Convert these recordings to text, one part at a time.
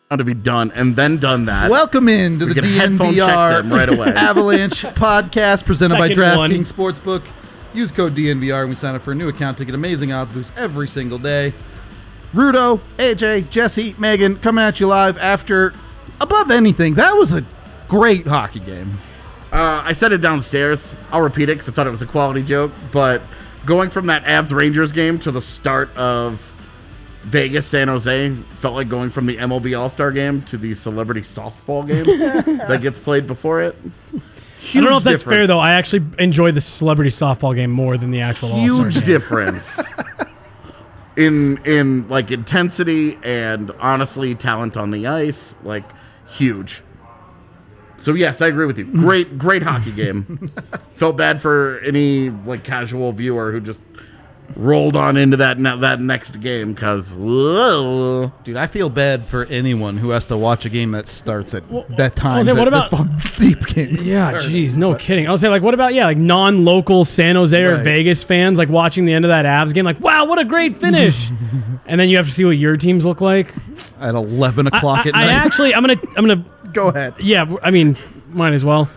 to be done and then done that. Welcome in to the DNVR right away. Avalanche podcast presented by Second one. DraftKings Sportsbook. Use code DNVR when we sign up for a new account to get amazing odds boosts every single day. Rudo, AJ, Jesse, Megan, coming at you live after, above anything, that was a great hockey game. I said it downstairs. I'll repeat it because I thought it was a quality joke. But going from that Avs-Rangers game to the start of Vegas-San Jose felt like going from the MLB All-Star game to the celebrity softball game that gets played before it. I don't know if that's fair, though. I actually enjoyed the celebrity softball game more than the actual All-Star game. Huge difference in like intensity and honestly talent on the ice. Like huge. So yes, I agree with you. Great hockey game. Felt bad for any like casual viewer who just rolled on into that next game because Dude, I feel bad for anyone who has to watch a game that starts at that time. What about deep games? Yeah, jeez, no kidding. I was saying, like, what about like non-local San Jose or Vegas fans, like watching the end of that Avs game, like, wow, what a great finish, and then you have to see what your teams look like At 11 o'clock at night. I'm gonna Go ahead. Yeah, I mean, might as well.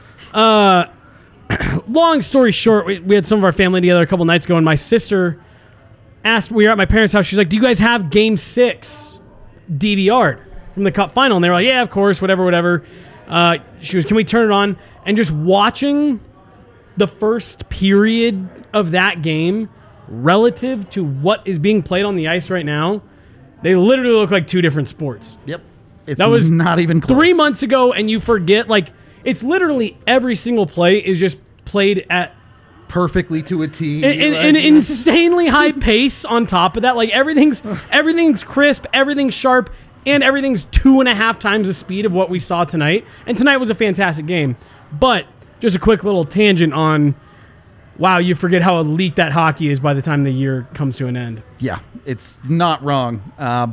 Long story short, we had some of our family together a couple nights ago, and my sister asked, we were at my parents' house, she's like, do you guys have Game 6 DVR'd from the Cup final? And they were like, yeah, of course, whatever. She was, can we turn it on? And just watching the first period of that game relative to what is being played on the ice right now, they literally look like two different sports. Yep. That was not even close. 3 months ago, and you forget, like, it's literally every single play is just played at perfectly to a T. an insanely high pace on top of that. Like, everything's crisp, everything's sharp, and everything's 2.5 times the speed of what we saw tonight. And tonight was a fantastic game. But just a quick little tangent on, wow, you forget how elite that hockey is by the time the year comes to an end. Yeah, it's not wrong.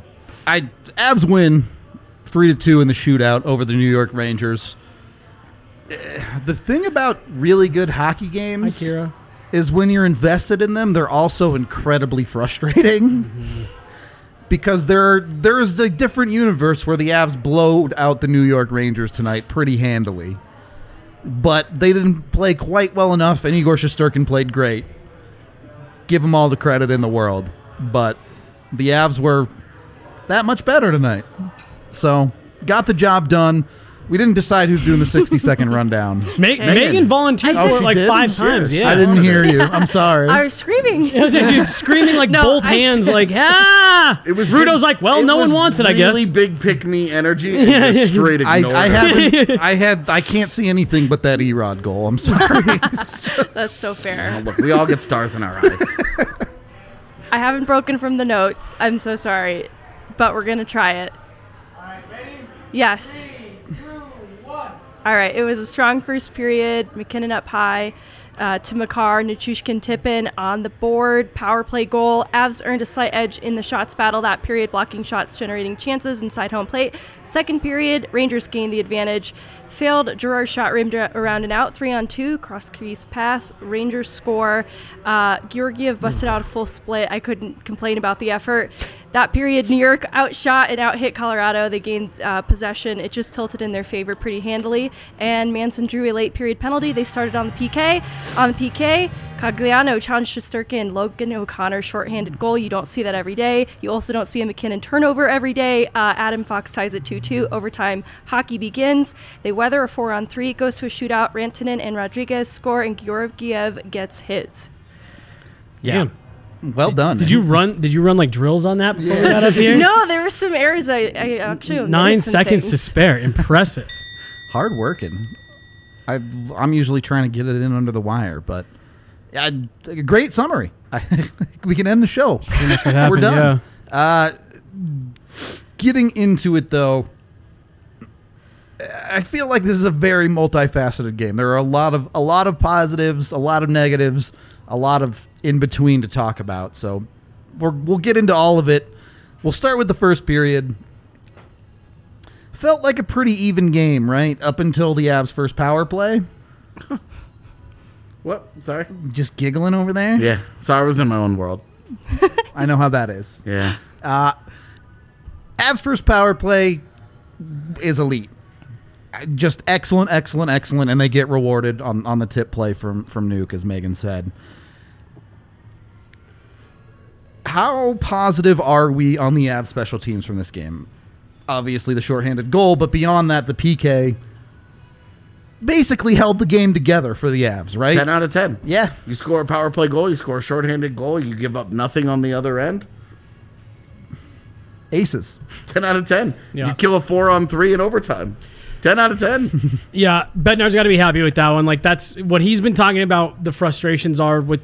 Avs win 3-2 in the shootout over the New York Rangers. The thing about really good hockey games is when you're invested in them, they're also incredibly frustrating. Because there's a different universe where the Avs blowed out the New York Rangers tonight pretty handily. But they didn't play quite well enough, and Igor Shesterkin played great. Give him all the credit in the world. But the Avs were that much better tonight. So, got the job done. We didn't decide who's doing the 60-second rundown. Megan volunteered for it like did? 5 times. Yeah, I didn't hear you. I'm sorry. I was screaming. She was screaming like both hands, like, ah! It was Rudo's like, well, no one wants it, I guess. Really big pick-me energy and just straight ignored. I can't see anything but that Erod goal. I'm sorry. That's so fair. Oh, look, we all get stars in our eyes. I haven't broken from the notes. I'm so sorry. But we're going to try it. All right, ready? Yes. 3, 2, 1. All right. It was a strong first period. McKinnon up high to Makar. Nichushkin Tippin on the board. Power play goal. Avs earned a slight edge in the shots battle that period, blocking shots, generating chances inside home plate. Second period, Rangers gained the advantage. Failed Gerard's shot rimmed around and out. 3-on-2. Cross-crease pass. Rangers score. Georgiev busted out a full split. I couldn't complain about the effort. That period, New York outshot and out-hit Colorado. They gained possession. It just tilted in their favor pretty handily. And Manson drew a late period penalty. They started on the PK. On the PK, Cogliano challenged Shesterkin. Logan O'Connor shorthanded goal. You don't see that every day. You also don't see a McKinnon turnover every day. Adam Fox ties it 2-2. Overtime hockey begins. They weather a 4-on-3. Goes to a shootout. Rantanen and Rodriguez score, and Georgiev gets his. Yeah. Well done. Did you run like drills on that before we got up here? No, there were some errors. I actually 9 seconds to spare. Impressive. Hard working. I'm usually trying to get it in under the wire, but great summary. We can end the show. Happened, we're done. Yeah. Getting into it though, I feel like this is a very multifaceted game. There are a lot of positives, a lot of negatives, a lot of in between to talk about. So we'll get into all of it. We'll start with the first period. Felt like a pretty even game, right? Up until the Avs' first power play. What? Sorry? Just giggling over there? Yeah. Sorry, I was in my own world. I know how that is. Yeah. Avs' first power play, is elite. Just excellent, and they get rewarded on the tip play from Nuke, as Megan said. How positive are we on the Avs special teams from this game? Obviously the shorthanded goal, but beyond that, the PK basically held the game together for the Avs, right? 10 out of 10. Yeah. You score a power play goal, you score a shorthanded goal, you give up nothing on the other end. Aces. 10 out of 10. Yeah. You kill a 4-on-3 in overtime. 10 out of 10. Yeah, Bednar's got to be happy with that one. Like, that's what he's been talking about. The frustrations are with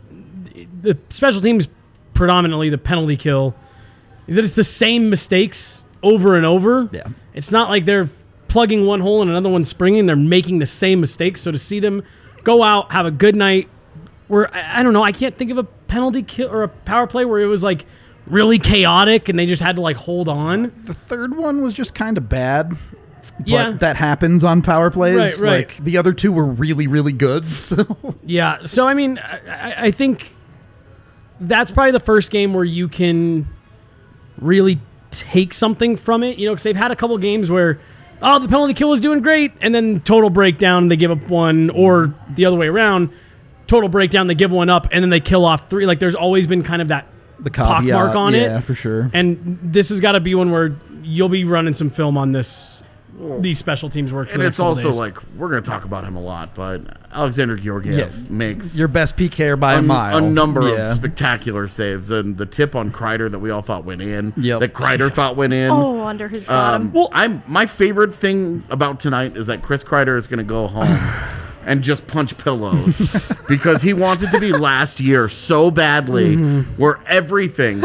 the special teams, predominantly the penalty kill, is that it's the same mistakes over and over. Yeah. It's not like they're plugging one hole and another one springing. They're making the same mistakes. So to see them go out, have a good night, where, I don't know, I can't think of a penalty kill or a power play where it was like really chaotic and they just had to like hold on. The third one was just kind of bad. But Yeah. that happens on power plays. Right. Like, the other two were really, really good. So Yeah. So, I mean, I think that's probably the first game where you can really take something from it, because they've had a couple games where, the penalty kill was doing great, and then total breakdown, they give up one, or the other way around, total breakdown, they give one up, and then they kill off three. Like, there's always been kind of that the caveat, pockmark on it. Yeah, for sure. And this has got to be one where you'll be running some film on these special teams work. For And the it's next couple also days. like, we're going to talk about him a lot, but Alexander Georgiev makes Your best PKer by a mile. a number Yeah. of spectacular saves. And the tip on Kreider that we all thought went in, Yep. that Kreider thought went in. Oh, under his bottom. My favorite thing about tonight is that Chris Kreider is going to go home and just punch pillows because he wants it to be last year so badly, where everything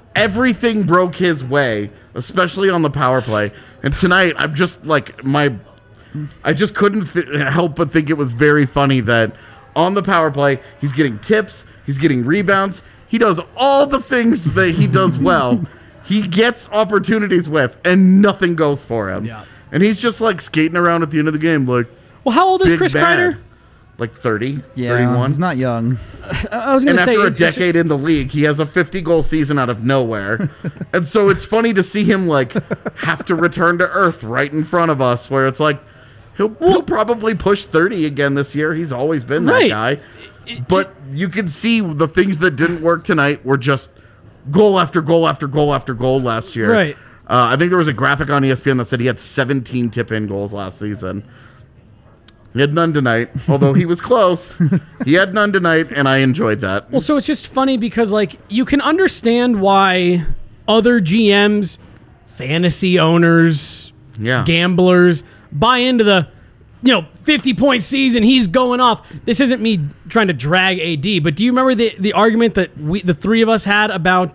broke his way, especially on the power play. And tonight, I'm just like I just couldn't help but think it was very funny that on the power play, he's getting tips, he's getting rebounds, he does all the things that he does well. He gets opportunities with, and nothing goes for him. Yeah. And he's just like skating around at the end of the game, like, well, how old is big Chris bad. Kreider? Like 30, Yeah, 31. he's not young. I was going And to say, after a it's just- decade in the league, he has a 50-goal season out of nowhere. And so it's funny to see him like have to return to earth right in front of us, where it's like he'll probably push 30 again this year. He's always been that Right. guy. But you can see the things that didn't work tonight were just goal after goal after goal after goal last year. Right. I think there was a graphic on ESPN that said he had 17 tip-in goals last season. He had none tonight, although he was close. He had none tonight, and I enjoyed that. Well, so it's just funny because, like, you can understand why other GMs, fantasy owners, Yeah. gamblers buy into the, 50-point season, he's going off. This isn't me trying to drag AD, but do you remember the argument that the three of us had about,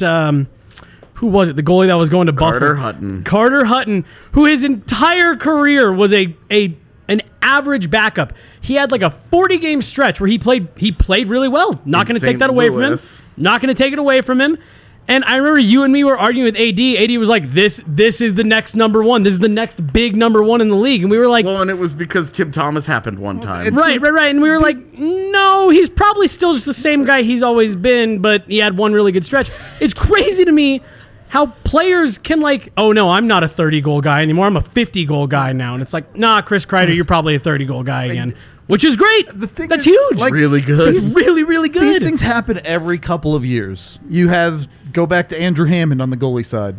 who was it? The goalie that was going to Carter Buffalo? Hutton. Carter Hutton, who his entire career was an average backup. He had like a 40-game stretch where he played really well. Not going to take St. that away from him. Louis. Not going to take it away from him. And I remember you and me were arguing with AD. AD was like, this is the next number one. This is the next big number one in the league. And we were like, Well, and it was because Tim Thomas happened one time. right. And we were like, no, he's probably still just the same guy he's always been, but he had one really good stretch. It's crazy to me how players can like, oh no, I'm not a 30-goal guy anymore. I'm a 50-goal guy now. And it's like, nah, Chris Kreider, you're probably a 30-goal guy again. Which is great. The thing That's is, huge. like, Really good. He's really, really good. These things happen every couple of years. Go back to Andrew Hammond on the goalie side.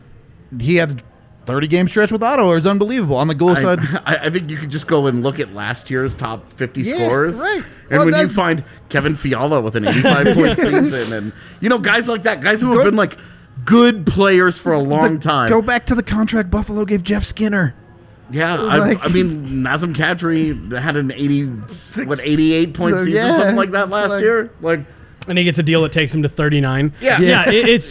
He had a 30-game stretch with Ottawa. It's unbelievable. On the goal side, I think you could just go and look at last year's top 50 Yeah, scores. right. And Well, when you that- find Kevin Fiala with an 85-point season and, guys like that, guys who have been, like, good players for a long time. Go back to the contract Buffalo gave Jeff Skinner. Yeah, like- I mean, Nazem Kadri had an 88-point season, Yeah, something like that it's last like- year. Like, and he gets a deal that takes him to 39. Yeah. yeah. It's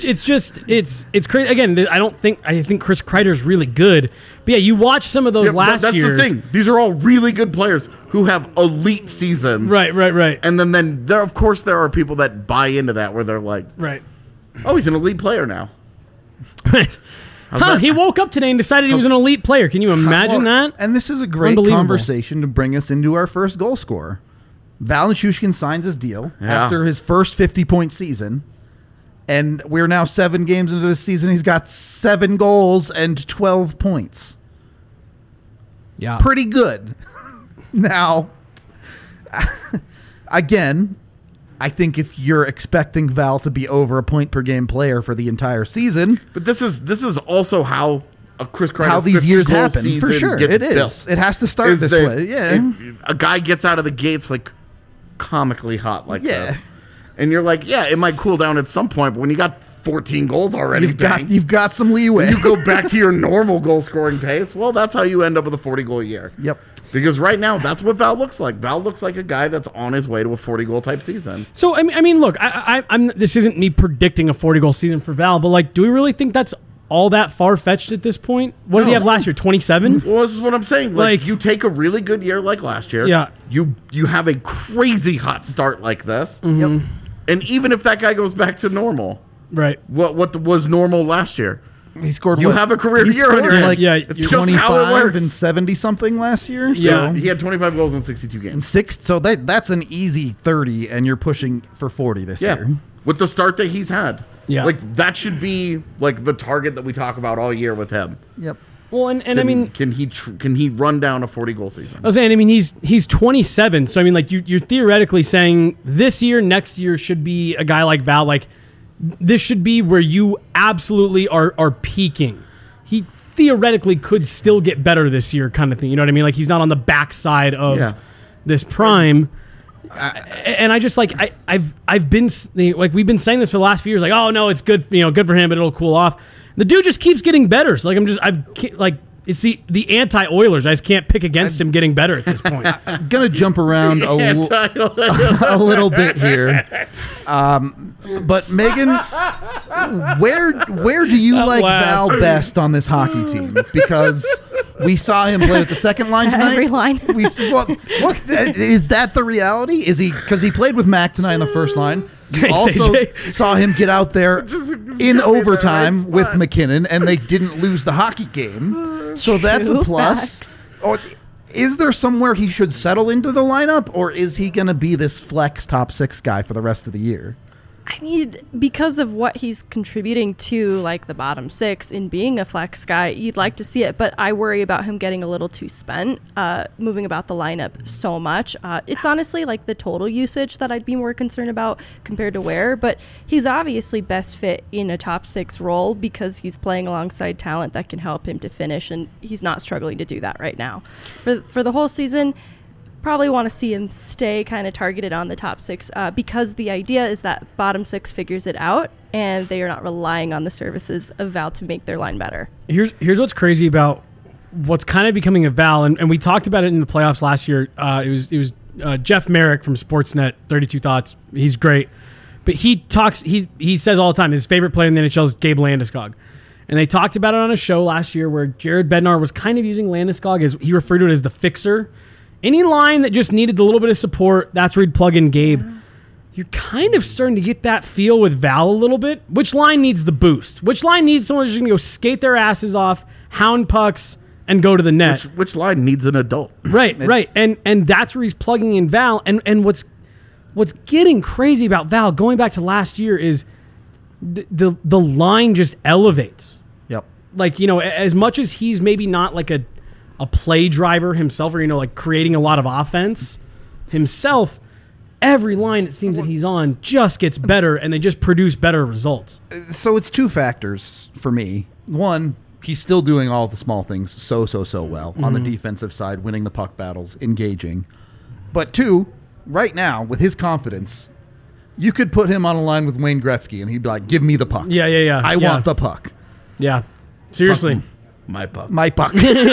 crazy. Again, I think Chris Kreider's really good. But yeah, you watch some of those yeah, but last that's year. the thing. These are all really good players who have elite seasons. Right. And then there, of course, there are people that buy into that where they're like, Right. oh, he's an elite player now. Right. that? He woke up today and decided he was an elite player. Can you imagine Well, that? And this is a great Unbelievable. conversation to bring us into our first goal scorer. Val Nichushkin signs his deal Yeah. after his first 50-point season. And we're now 7 games into this season. He's got 7 goals and 12 points. Yeah. Pretty good. Now, again, I think if you're expecting Val to be over a point per game player for the entire season, But this is also how a Chris Kreider how these 50 years goal happen, for season sure. gets It is. built. It has to start Is this that way. Yeah. A guy gets out of the gates like comically hot like Yeah. this. And you're like, yeah, it might cool down at some point, but when you got 14 goals already, You've got some leeway. you go back to your normal goal scoring pace. Well, that's how you end up with a 40 goal year. Yep. Because right now, that's what Val looks like. Val looks like a guy that's on his way to a 40 goal type season. So I mean, look, I'm. This isn't me predicting a 40 goal season for Val, but like, do we really think that's all that far fetched at this point? What did he have last year? 27. Well, this is what I'm saying. Like- You take a really good year like last year. Yeah. You have a crazy hot start like this. Yep. And even if that guy goes back to normal, Right. what was normal last year? He scored. You have a career he year on scored your hands. like Yeah, it's just how it 25 works. and 70 something last year. So Yeah. He had 25 goals in 62 and games. 6. So that's an easy 30, and you're pushing for 40 this Yeah. year. With the start that he's had. Yeah. Like, that should be, like, the target that we talk about all year with him. Yep. Well, and I mean, Can he run down a 40-goal season? I was saying, I mean, he's 27, so I mean, like, you're theoretically saying this year, next year should be a guy like Val. Like, this should be where you absolutely are peaking. He theoretically could still get better this year, kind of thing. You know what I mean? Like, he's not on the backside of Yeah. this prime. And I just like I've been like we've been saying this for the last few years. Like, oh no, it's good, good for him, but it'll cool off. The dude just keeps getting better. So like it's the anti-Oilers. I just can't pick against him getting better at this point. I'm gonna jump around a little bit here, but Megan, where do you like laugh. Val best on this hockey team? Because we saw him play with the second line tonight. Every line. Look, is that the reality? Is he, because he played with Mac tonight in the first line? You Thanks, also AJ. saw him get out there Just in got me overtime in the right with spot. McKinnon, and they didn't lose the hockey game. So that's a True plus. facts. Or is there somewhere he should settle into the lineup, or is he going to be this flex top 6 guy for the rest of the year? I mean, because of what he's contributing to, like the bottom 6 in being a flex guy, you'd like to see it. But I worry about him getting a little too spent, moving about the lineup so much. It's honestly like the total usage that I'd be more concerned about compared to Ware. But he's obviously best fit in a top 6 role because he's playing alongside talent that can help him to finish, and he's not struggling to do that right now. For the whole season, probably want to see him stay kind of targeted on the top 6 because the idea is that bottom 6 figures it out and they are not relying on the services of Val to make their line better. Here's what's crazy about what's kind of becoming a Val, and we talked about it in the playoffs last year. It was Jeff Merrick from Sportsnet, 32 Thoughts. He's great, but he says all the time his favorite player in the NHL is Gabe Landeskog. And they talked about it on a show last year where Jared Bednar was kind of using Landeskog as he referred to it as the fixer. Any line that just needed a little bit of support, that's where he'd plug in Gabe. You're kind of starting to get that feel with Val a little bit. Which line needs the boost? Which line needs someone who's just going to go skate their asses off, hound pucks, and go to the net? Which line needs an adult? Right. And that's where he's plugging in Val. And what's getting crazy about Val, going back to last year, is the line just elevates. Yep. Like, as much as he's maybe not like a play driver himself, or like creating a lot of offense himself, every line it seems that he's on just gets better, and they just produce better results. So it's 2 factors for me. One, he's still doing all the small things so well on the defensive side, winning the puck battles, engaging. But 2, right now, with his confidence, you could put him on a line with Wayne Gretzky, and he'd be like, give me the puck. Yeah. I want the puck. Yeah. Seriously. My pup. My puck.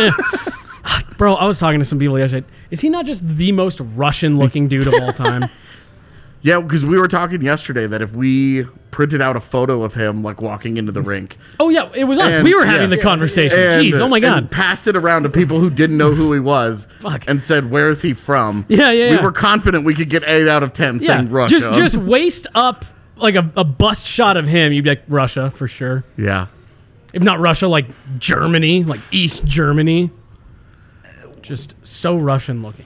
Bro, I was talking to some people yesterday. Is he not just the most Russian-looking dude of all time? Yeah, because we were talking yesterday that if we printed out a photo of him like walking into the rink Oh, yeah, it was us. And- We were having yeah. the conversation. and, Jeez, oh my and God. passed it around to people who didn't know who he was Fuck. and said, where is he from? Yeah. We were confident we could get 8 out of 10 Yeah, saying Russia. just waist up like a bust shot of him. You'd be like, Russia, for sure. Yeah. If not Russia, like Germany, like East Germany. Just so Russian looking.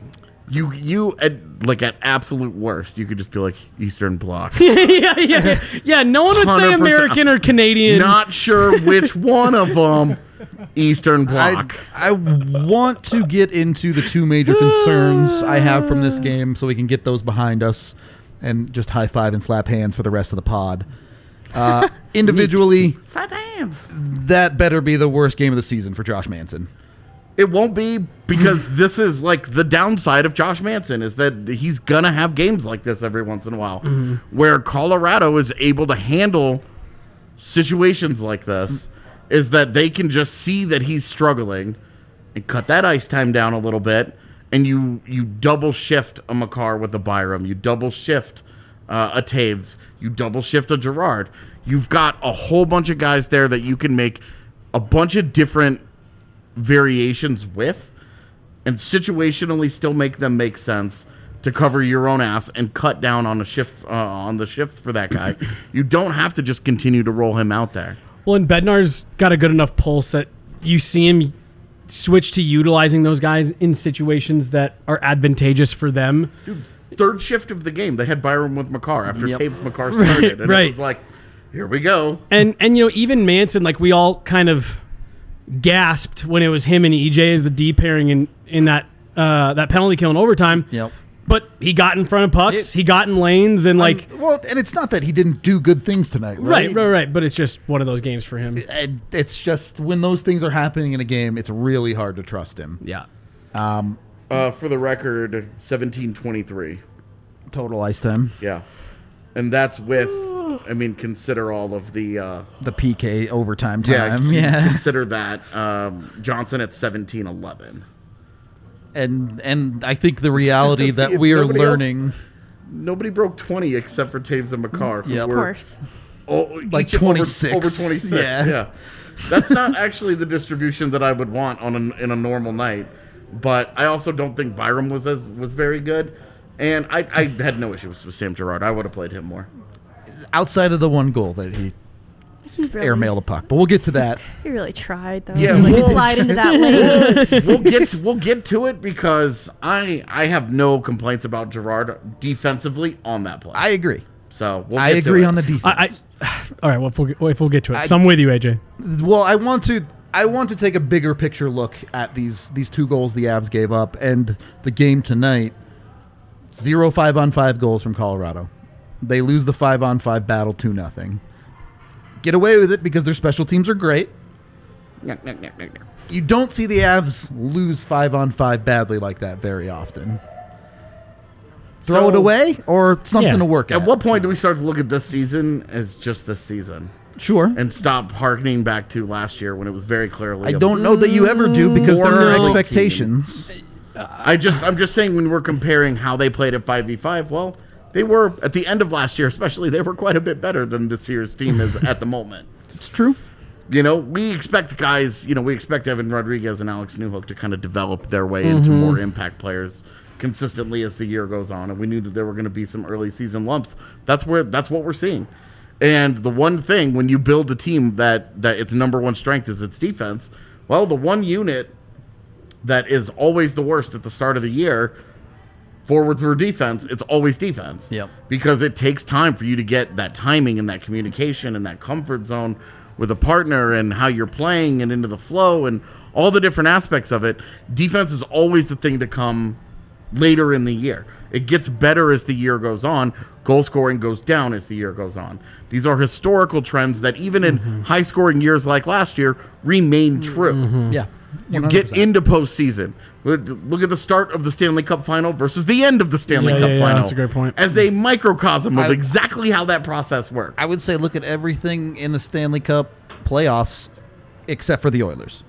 You at absolute worst, you could just be like Eastern Bloc. yeah. No one would say 100%. American or Canadian. Not sure which one of them. Eastern Bloc. I want to get into the two major concerns I have from this game so we can get those behind us and just high five and slap hands for the rest of the pod. Individually, Slap hands. that better be the worst game of the season for Josh Manson. It won't be, because this is like the downside of Josh Manson is that he's gonna have games like this every once in a while, where Colorado is able to handle situations like this. Is that they can just see that he's struggling and cut that ice time down a little bit, and you double shift a Makar with a Byram, you double shift a Taves, you double shift a Gerard. You've got a whole bunch of guys there that you can make a bunch of different variations with, and situationally still make them make sense to cover your own ass and cut down on a shift on the shifts for that guy. You don't have to just continue to roll him out there. Well, and Bednar's got a good enough pulse that you see him switch to utilizing those guys in situations that are advantageous for them. Dude, third shift of the game, they had Byram with Makar after Taves Makar started. And right. it was like, here we go. And even Manson, like we all kind of gasped when it was him and EJ as the D pairing in that penalty kill in overtime. Yep. But he got in front of pucks, he got in lanes, and and it's not that he didn't do good things tonight, right? Right. But it's just one of those games for him. It's just when those things are happening in a game, it's really hard to trust him. Yeah. For the record, 17:23 total ice time. Yeah, and that's with, consider all of the PK overtime time. Yeah. Consider that Johnson at 17:11. And I think the reality that we are learning. Nobody broke 20 except for Taves and Makar. Yep. Of course. Like 26. Over 26. Yeah. That's not actually the distribution that I would want in a normal night. But I also don't think Byram was very good. And I had no issues with Sam Girard. I would have played him more. Outside of the one goal that he airmailed the puck, but we'll get to that. He really tried, though. Yeah, Slide into that lane. We'll get to it because I have no complaints about Girard defensively on that play. I agree. So I agree on the defense. All right. Well, if we'll get to it. So I'm with you, AJ. Well, I want to take a bigger picture look at these two goals the Avs gave up and the game tonight. 0 5-on-5 goals from Colorado. They lose the 5-on-5 battle 2-0. Get away with it because their special teams are great. You don't see the Avs lose 5-on-5 badly like that very often. Throw it away or something to work at. At what point do we start to look at this season as just this season? Sure. And stop hearkening back to last year when it was very clearly. I don't know that you ever do because there are expectations. I'm just saying when we're comparing how they played at 5v5, well, they were, at the end of last year especially, they were quite a bit better than this year's team is at the moment. It's true. We expect guys, we expect Evan Rodriguez and Alex Newhook to kind of develop their way into more impact players consistently as the year goes on. And we knew that there were going to be some early season lumps. That's what we're seeing. And the one thing, when you build a team that its number one strength is its defense, well, the one unit that is always the worst at the start of the year, forwards or defense, it's always defense. Yep. Because it takes time for you to get that timing and that communication and that comfort zone with a partner and how you're playing and into the flow and all the different aspects of it. Defense is always the thing to come later in the year. It gets better as the year goes on. Goal scoring goes down as the year goes on. These are historical trends that even in high-scoring years like last year remain true. Yeah. 100%. You get into postseason. Look at the start of the Stanley Cup final versus the end of the Stanley Cup final. That's a great point. As a microcosm of exactly how that process works. I would say look at everything in the Stanley Cup playoffs except for the Oilers.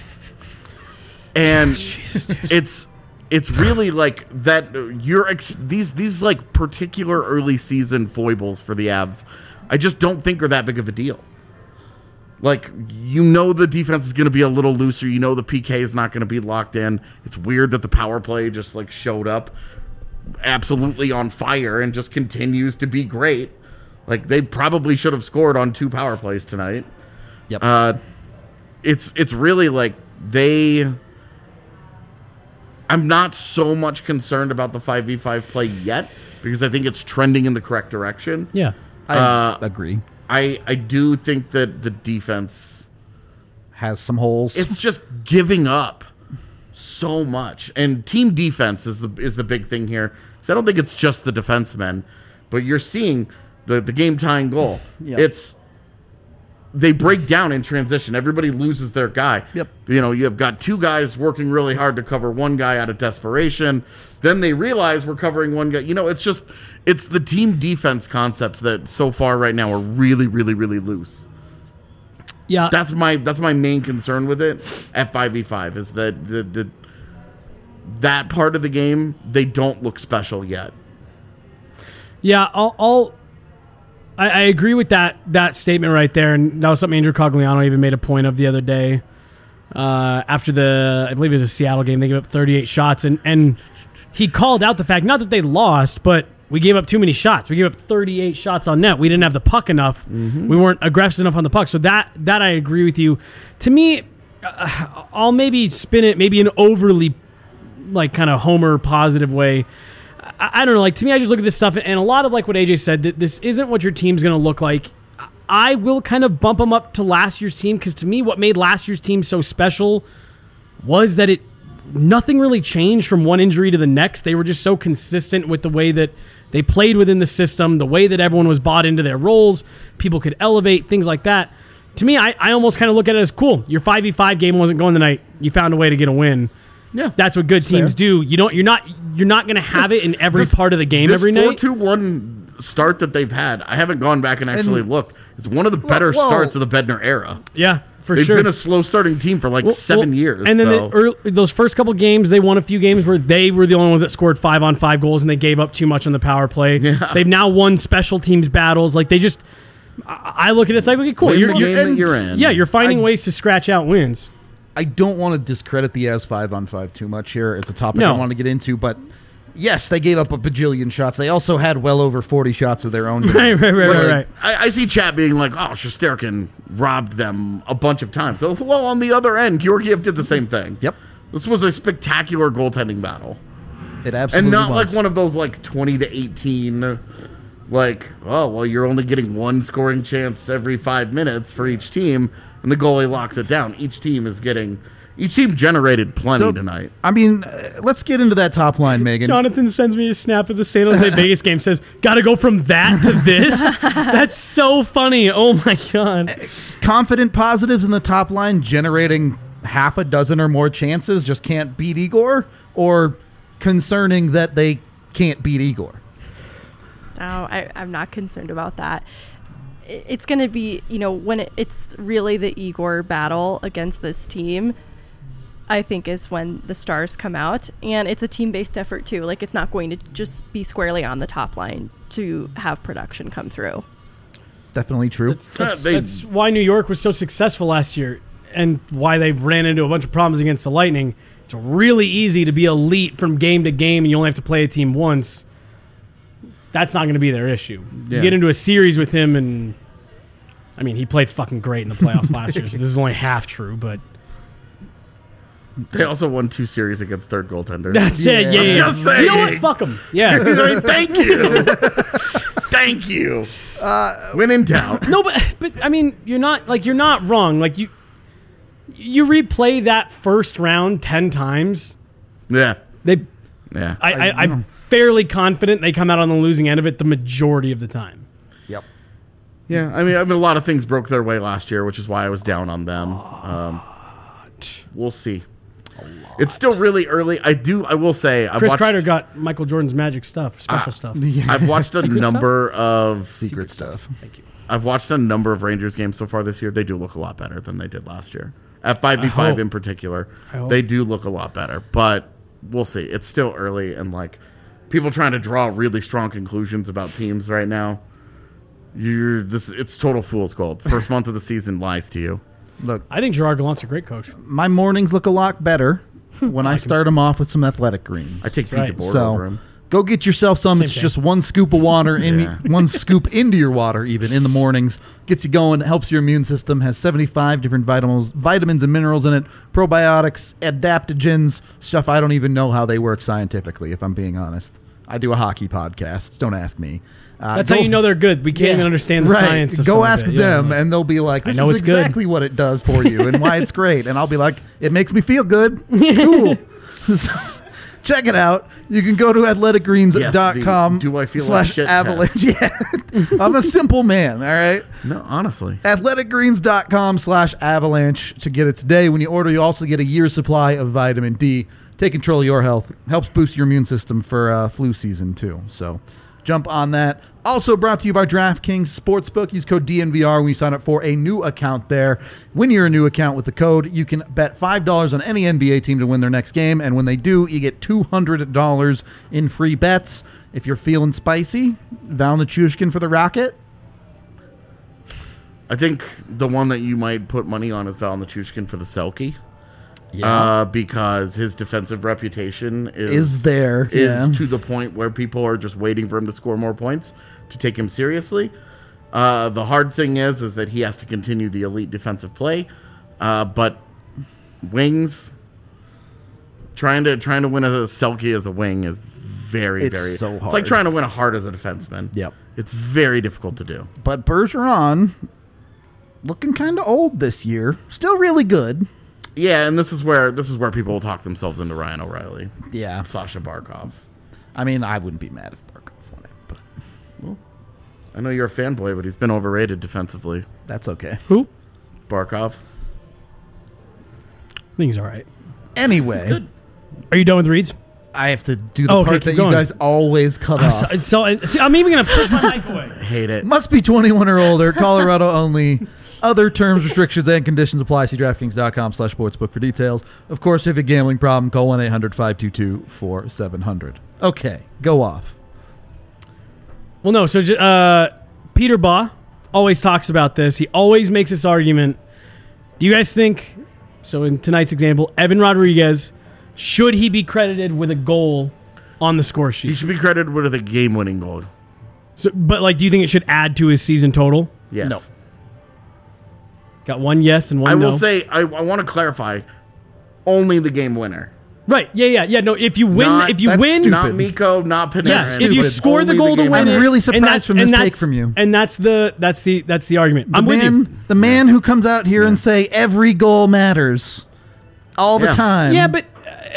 And it's really like that. These like particular early season foibles for the Avs, I just don't think are that big of a deal. Like, the defense is going to be a little looser. The PK is not going to be locked in. It's weird that the power play just like showed up absolutely on fire and just continues to be great. Like, they probably should have scored on 2 power plays tonight. Yep. It's really like I'm not so much concerned about the 5v5 play yet because I think it's trending in the correct direction. Yeah. I agree. I do think that the defense Has some holes. it's just giving up so much, and team defense is the big thing here. So I don't think it's just the defensemen, but you're seeing the game tying goal. Yeah. It's they break down in transition. Everybody loses their guy. Yep. You know, you have got two guys working really hard to cover one guy out of desperation. Then they realize we're covering one guy. You know, it's the team defense concepts that so far right now are really, really, really loose. Yeah. That's my main concern with it at 5v5 is that that part of the game, they don't look special yet. Yeah, I agree with that statement right there, and that was something Andrew Cogliano even made a point of the other day. After I believe it was a Seattle game, they gave up 38 shots, and he called out the fact, not that they lost, but we gave up too many shots. We gave up 38 shots on net. We didn't have the puck enough. Mm-hmm. We weren't aggressive enough on the puck. So that I agree with you. To me, I'll maybe spin it maybe an overly like kind of homer positive way. I don't know. Like, to me, I just look at this stuff, and a lot of like what AJ said, that this isn't what your team's going to look like. I will kind of bump them up to last year's team, because to me, what made last year's team so special was that nothing really changed from one injury to the next. They were just so consistent with the way that they played within the system, the way that everyone was bought into their roles, people could elevate, things like that. To me, I almost kind of look at it as cool. Your 5v5 game wasn't going tonight. You found a way to get a win. Yeah, that's what good teams do. You're not going to have it in every part of the game every night. This 4-2-1 start that they've had, I haven't gone back and actually looked. It's one of the better starts of the Bednar era. Yeah, for They've sure. been a slow starting team for like 7 years. And then those first couple games, they won a few games where they were the only ones that scored 5-on-5 goals, and they gave up too much on the power play. Yeah. They've now won special teams battles. Like, they just, I look at it, it's like, okay, cool. You're in. Yeah, you're finding ways to scratch out wins. I don't want to discredit the Avs 5-on-5 too much here. It's a topic I want to get into, but yes, they gave up a bajillion shots. They also had well over 40 shots of their own. Right. I see chat being like, oh, Shesterkin robbed them a bunch of times. So, well, on the other end, Georgiev did the same thing. Yep. This was a spectacular goaltending battle. It absolutely And not was. like one of those like 20-18, like, oh, well, you're only getting one scoring chance every 5 minutes for each team, and the goalie locks it down. Each team generated plenty tonight. I mean, let's get into that top line, Megan. Jonathan sends me a snap of the San Jose Vegas game, says, gotta go from that to this? That's so funny. Oh, my God. Confident positives in the top line, generating half a dozen or more chances, just can't beat Igor? Or concerning that they can't beat Igor? No, I'm not concerned about that. It's going to be, when it's really the Igor battle against this team, I think is when the stars come out. And it's a team-based effort, too. Like, it's not going to just be squarely on the top line to have production come through. Definitely true. That's why New York was so successful last year, and why they ran into a bunch of problems against the Lightning. It's really easy to be elite from game to game, and you only have to play a team once. That's not going to be their issue. Yeah. You get into a series with him, and I mean, he played fucking great in the playoffs last year, so this is only half true, but they also won 2 series against third goaltender. That's it. Yeah. Just saying. You know what? Fuck them. Yeah. Thank you. Thank you. When in doubt. No, but I mean, you're not wrong. Like, you replay that first round 10 times. Yeah. I'm fairly confident they come out on the losing end of it the majority of the time. Yep. Yeah, I mean, a lot of things broke their way last year, which is why I was down on them. We'll see. It's still really early. I will say, Chris Kreider got Michael Jordan's magic stuff, special stuff. Yeah. I've watched a number of secret stuff. Thank you. I've watched a number of Rangers games so far this year. They do look a lot better than they did last year. At 5v5 in particular, they do look a lot better. But we'll see. It's still early, and like people trying to draw really strong conclusions about teams right now. It's total fool's gold. First month of the season lies to you. Look, I think Gerard Gallant's a great coach. My mornings look a lot better when I start them off with some athletic greens. I take Pete DeBoer over him. Go get yourself some. Same It's thing. just one scoop of water Yeah. one scoop into your water even in the mornings. Gets you going, helps your immune system, has 75 different vitamins and minerals in it, probiotics, adaptogens, stuff I don't even know how they work scientifically, if I'm being honest. I do a hockey podcast. Don't ask me. That's how you know they're good. We can't even understand the science of Go some of ask it. Yeah. them, and they'll be like, "This know is it's good." exactly what it does for you, and why it's great." And I'll be like, "It makes me feel good. Cool." So, check it out. You can go to athleticgreens.com Yes, do I feel like shit /avalanche. Yeah, I'm a simple man. All right. No, honestly. athleticgreens.com/avalanche to get it today. When you order, you also get a year's supply of vitamin D. Take control of your health. Helps boost your immune system for flu season, too. So jump on that. Also brought to you by DraftKings Sportsbook. Use code DNVR when you sign up for a new account there. When you're a new account with the code, you can bet $5 on any NBA team to win their next game. And when they do, you get $200 in free bets. If you're feeling spicy, Val Nichushkin for the Rocket. I think the one that you might put money on is Val Nichushkin for the Selke. Yeah. Because his defensive reputation Is there, is yeah. to the point where people are just waiting for him to score more points to take him seriously. The hard thing is that he has to continue the elite defensive play. But wings, trying to win a Selke as a wing is very, It's very so It's hard. like trying to win a Hart as a defenseman. Yep. It's very difficult to do. But Bergeron, looking kind of old this year. Still really good. Yeah, and this is where people will talk themselves into Ryan O'Reilly. Yeah. Sasha Barkov. I mean, I wouldn't be mad if Barkov won it, but I know you're a fanboy, but he's been overrated defensively. that's okay. Who? Barkov. I think he's all right. Anyway, Are you done with reads? I have to do the Oh, okay, part keep that going. you guys always cut off. See, I'm even going to push my mic away. Hate it. Must be 21 or older. Colorado only. Other terms, restrictions, and conditions apply. See DraftKings.com/sportsbook for details. Of course, if you have a gambling problem, call 1-800-522-4700. Okay, go off. Well, no. So Peter Baugh always talks about this. He always makes this argument. Do you guys think, so in tonight's example, Evan Rodriguez, should he be credited with a goal on the score He sheet? should be credited with a game-winning goal. So, but do you think it should add to his season total? Yes. No. Got one yes and one I no. will say, I want to clarify, only the game winner. Right. Yeah. No, if you win, Not- if you that's win, stupid. Not Miko, not Panarin. yes, if you stupid. score the Only goal to game win winner. it, I'm really and surprised that's- from this and take that's- from you. And that's the argument. I'm with you. The man who comes out here and say every goal matters all the Yeah. time. Yeah, but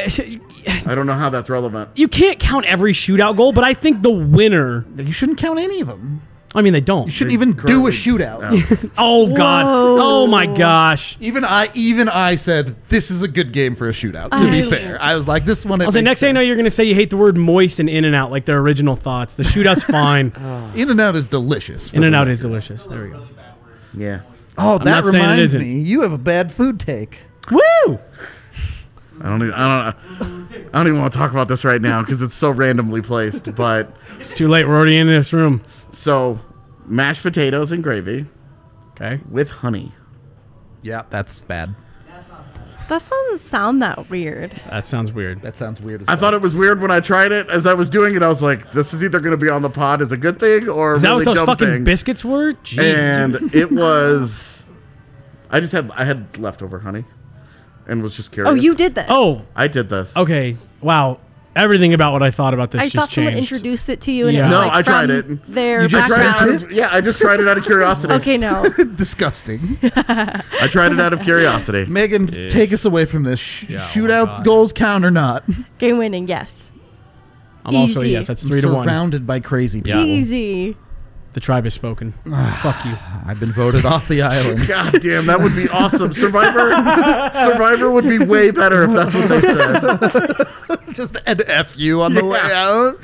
I don't know how that's relevant. you can't count every shootout goal. But I think the winner. you shouldn't count any of them. I mean, they don't. You shouldn't even do a shootout. Oh God! Whoa. Oh my gosh! Even I said this is a good game for a shootout. To be fair, I was like, this one. I'll say next thing I know, you're going to say you hate the word moist and in and out like their original thoughts. The shootout's fine. In and Out is delicious. for In and the out record. is delicious. There we go. Yeah. Oh, that not saying it reminds isn't. me. You have a bad food take. Woo! I don't even want to talk about this right now because it's so randomly placed. But It's too late. We're already in this room. so mashed potatoes and gravy Okay. with honey. Yeah, that's bad. That doesn't sound that weird. That sounds weird. That sounds weird as I thought it was weird when I tried it. As I was doing it, I was like, "This is either going to be on the pod as a good thing or a Is that really what those dumb fucking thing." biscuits were? Jeez. And dude. it was. I had leftover honey, and was just curious. Oh, you did this. Oh, I did this. okay. Wow. Everything about what I thought about this I just thought someone changed. introduced it to you, and Yeah. it was No, like I tried from it. their You just I tried background. it yeah, I just tried it out of curiosity. Okay, no. disgusting. I tried it out of curiosity. Megan, take us away from this. Yeah, oh my Shootout God. goals count or not? Game winning, yes. I'm also Easy. yes. That's 3-1. Surrounded by crazy people. Yeah. Easy. The tribe has spoken. Fuck you. I've been voted off the island. God damn, that would be awesome. Survivor would be way better if that's what they said. Just an F you on the way out.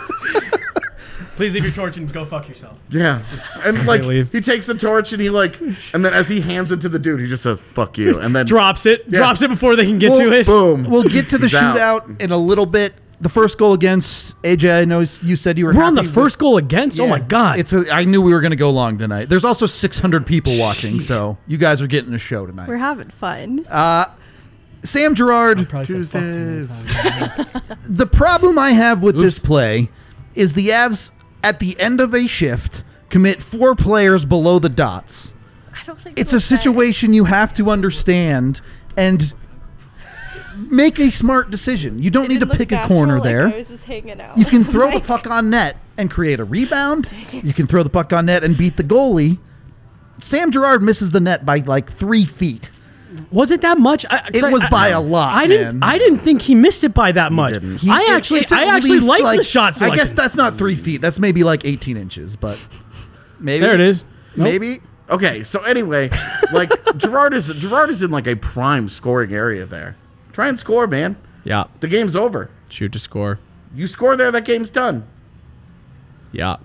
Please leave your torch and go fuck yourself. Yeah. And like leave. he takes the torch and and then as he hands it to the dude, he just says, "Fuck you." And then Drops it. Yeah. Drops it before they can get to it. boom. We'll get to the He's out. shootout in a little bit. The first goal against AJ, I know you said you were We're on the happy first goal against. Oh my God. I knew we were going to go long tonight. There's also 600 people watching, so you guys are getting a show tonight. We're having fun. Sam Girard. Probably said fuck too many Tuesdays. times. The problem I have with this play is the Avs at the end of a shift commit 4 players below the dots. I don't think It's it a was that. situation you have to understand and make a smart decision. You don't It need to didn't look pick a natural, corner like there. I was hanging out. You can throw the Like, puck on net and create a rebound. You can throw the puck on net and beat the goalie. Sam Girard misses the net by like 3 feet. Was it that much? It was by a lot, I didn't. man. I didn't think he missed it by that much. didn't. He- I actually it's at liked least, the shot I selection. guess that's not 3 feet. That's maybe like 18 inches, but maybe. There it is. Nope. Maybe. Okay, so anyway, like Girard is in like a prime scoring area there. Try and score, man. Yeah. The game's over. Shoot to score. You score there, that game's done. Yeah.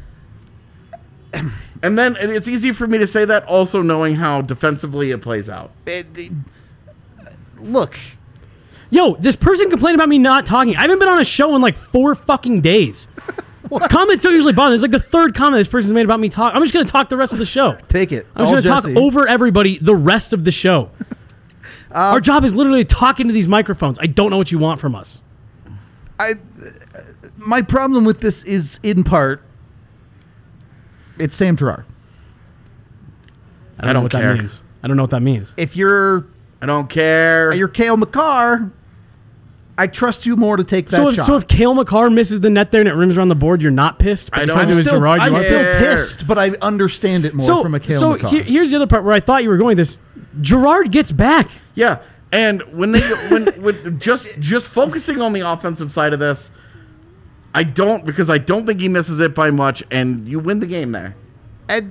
And then and it's easy for me to say that, also knowing how defensively it plays out. Look, Yo, this person complained about me not talking. I haven't been on a show in like 4 fucking days. Comments don't usually bother. It's like the 3rd comment this person's made about me talking. I'm just going to talk the rest of the show. take it. I'm All just going to Jesse. talk over everybody the rest of the show. Our job is literally talking to these microphones. I don't know what you want from us. My problem with this is, in part, it's Sam Girard. I don't know what care. that means. I don't know what that means. If you're I don't care. Kale McCarr, I trust you more to take that So if, shot. so if Cale McCarr misses the net there and it rims around the board, you're not pissed? But I don't- because it was I'm Gerard, you I'm are still care. pissed, but I understand it more from a Cale McCarr. Here's the other part where I thought you were going with this. Gerard gets back. Yeah, and when just focusing on the offensive side of this, I don't think he misses it by much, and you win the game there. and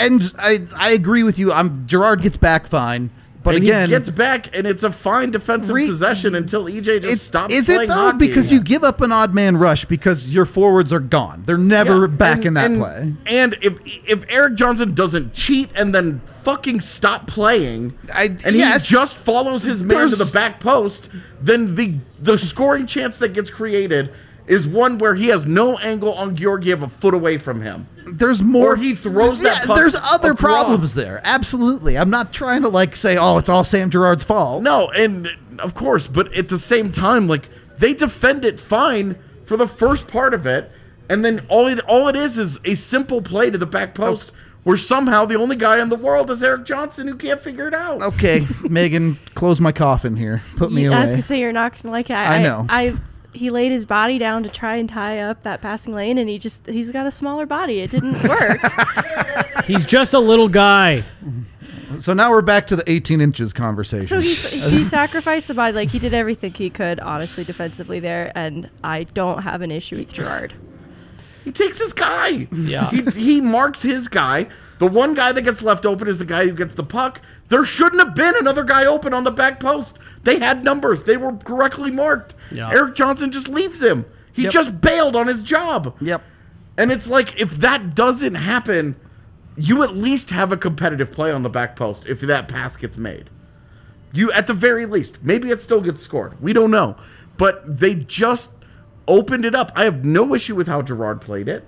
I agree with you. Gerard gets back fine, but And again, he gets back, and it's a fine defensive possession until EJ just stops is playing it though? hockey. Because you give up an odd man rush because your forwards are gone. They're never Yeah, back in that play. And if Eric Johnson doesn't cheat and then fucking stop playing, and yes. he just follows his man to the There's- back post, then the scoring chance that gets created is one where he has no angle on Georgiev a foot away from him. There's more. Or he throws that puck There's other across. problems there. Absolutely. I'm not trying to say, oh, it's all Sam Girard's fault. No, and of course, but at the same time, like they defend it fine for the first part of it, and then all it is a simple play to the back post where somehow the only guy in the world is Eric Johnson who can't figure it out. Okay, Megan, close my coffin here. Put me I was away. gonna say you're not gonna like it. I know. He laid his body down to try and tie up that passing lane, and he's got a smaller body. It didn't work. He's just a little guy. So now we're back to the 18 inches conversation. So he sacrificed the body. Like, he did everything he could, honestly, defensively there, and I don't have an issue with Gerard. He takes his guy. Yeah. He marks his guy. The one guy that gets left open is the guy who gets the puck. There shouldn't have been another guy open on the back post. They had numbers. They were correctly marked. Yeah. Eric Johnson just leaves him. He Yep. just bailed on his job. Yep. And it's like, if that doesn't happen, you at least have a competitive play on the back post if that pass gets made. You, at the very least, maybe it still gets scored. We don't know. But they just opened it up. I have no issue with how Gerard played it.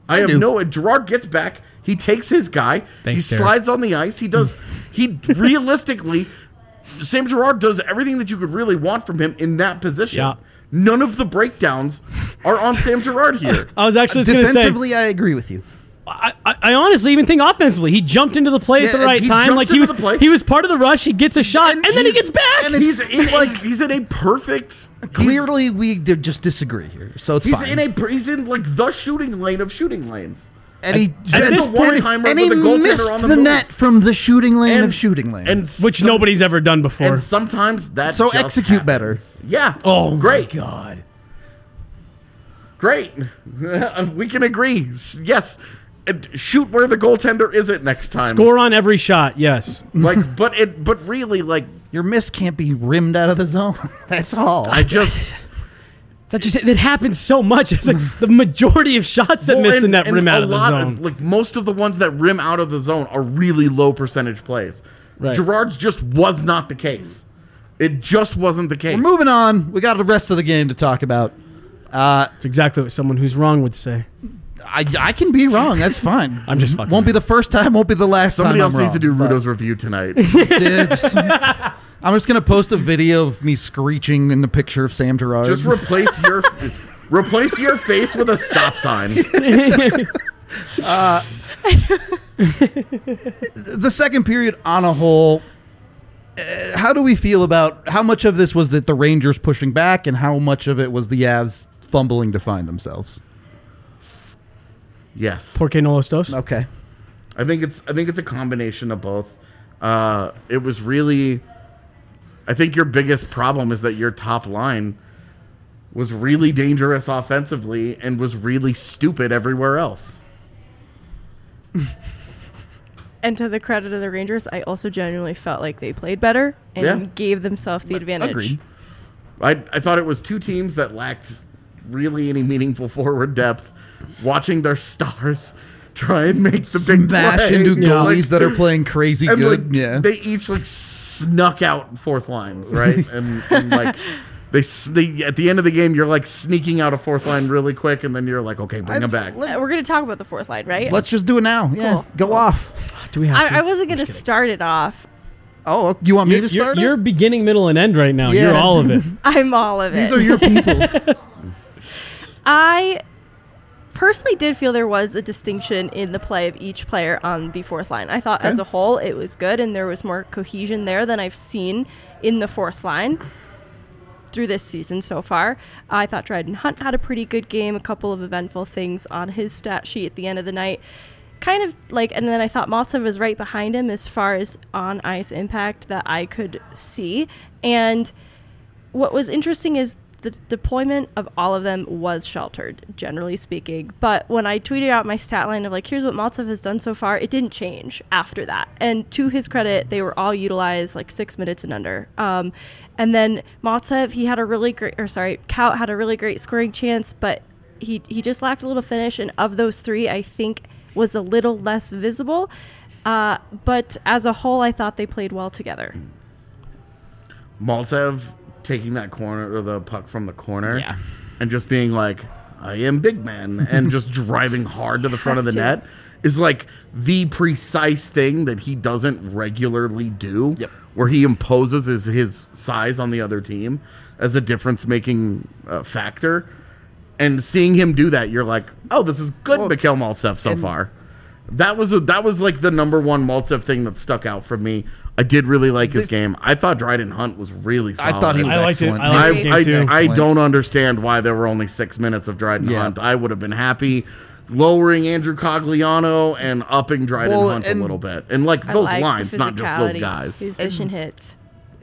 Gerard gets back. He takes his guy. Thanks, he Derek. slides on the ice. He realistically, Sam Girard does everything that you could really want from him in that position. Yeah. None of the breakdowns are on Sam Girard here. I was actually just going to say, Defensively, I agree with you. I honestly even think offensively, he jumped into the play at the Yeah, right he time. jumps Like into the play. he was part of the rush. He gets a shot, and then he he's- gets back. and He's in a perfect. Clearly, we just disagree here, so it's He's fine. he's in like the shooting lane of shooting lanes. and he at this point- and he missed the net from the shooting lane of shooting lanes. and which nobody's ever done before. And sometimes that So just execute happens. better. Yeah. Oh, great. my God. Great. We can agree. Yes. And shoot where the goaltender isn't next time. Score on every shot, yes. But really, like, Your miss can't be rimmed out of the zone. That's all. That happens so much. It's like the majority of shots that miss the net rim out of the zone. Like most of the ones that rim out of the zone are really low percentage plays. Right. Gerard's just was not the case. It just wasn't the case. We're moving on. We got the rest of the game to talk about. It's exactly what someone who's wrong would say. I can be wrong. That's fine. I'm just fucking Won't be around. the first time. Won't be the last Somebody time. else I'm needs to do wrong, Rudo's review tonight. but- I'm just going to post a video of me screeching in the picture of Sam Gerard. Just replace your face with a stop sign. The second period on a whole, how do we feel about how much of this was that the Rangers pushing back and how much of it was the Avs fumbling to find themselves? Yes. Por qué no los dos? Okay. I think it's a combination of both. It was really, I think your biggest problem is that your top line was really dangerous offensively and was really stupid everywhere else. And to the credit of the Rangers, I also genuinely felt like they played better and Yeah. gave themselves the advantage. Agreed. I thought it was two teams that lacked really any meaningful forward depth, watching their stars try and make the big Smash play. into Yeah. goalies that are playing crazy And good. like, Yeah. they each like snuck out fourth lines, right? and like they at the end of the game, you're like sneaking out a fourth line really quick, and then you're like, okay, bring them back. We're going to talk about the fourth line, right? Let's just do it now. Yeah. Cool. Go off. Do we have to? I wasn't going to start it off. Oh, you want me to start You're it? beginning, middle, and end right now. Yeah. You're all of it. I'm all of it. These are your people. I personally did feel there was a distinction in the play of each player on the fourth line. I thought as a whole it was good and there was more cohesion there than I've seen in the fourth line through this season so far. I thought Dryden Hunt had a pretty good game, a couple of eventful things on his stat sheet at the end of the night. Kind of like, and then I thought Maltsev was right behind him as far as on ice impact that I could see. And what was interesting is the deployment of all of them was sheltered, generally speaking. But when I tweeted out my stat line of like, here's what Maltsev has done so far, it didn't change after that. And to his credit, they were all utilized like 6 minutes and under. And then Maltsev, he had a really great, Kaut had a really great scoring chance, but he just lacked a little finish. And of those three, I think was a little less visible. But as a whole, I thought they played well together. Maltsev taking that corner or the puck from the corner, Yeah. and just being like, I am big man, and just driving hard to the front of the Has to. net is like the precise thing that he doesn't regularly do. Yep. Where he imposes his size on the other team as a difference-making factor. And seeing him do that, you're like, oh, this is good, Well, Mikhail Maltsev so far. That was like the number one Maltsev thing that stuck out for me. I did really like his game. I thought Dryden Hunt was really solid. I thought he was I liked it. excellent. I liked his game too. I Excellent. don't understand why there were only 6 minutes of Dryden Yeah. Hunt. I would have been happy lowering Andrew Cogliano and upping Dryden Well, Hunt a and little bit. And like I those like lines, the not just those physicality. guys. His vision hits.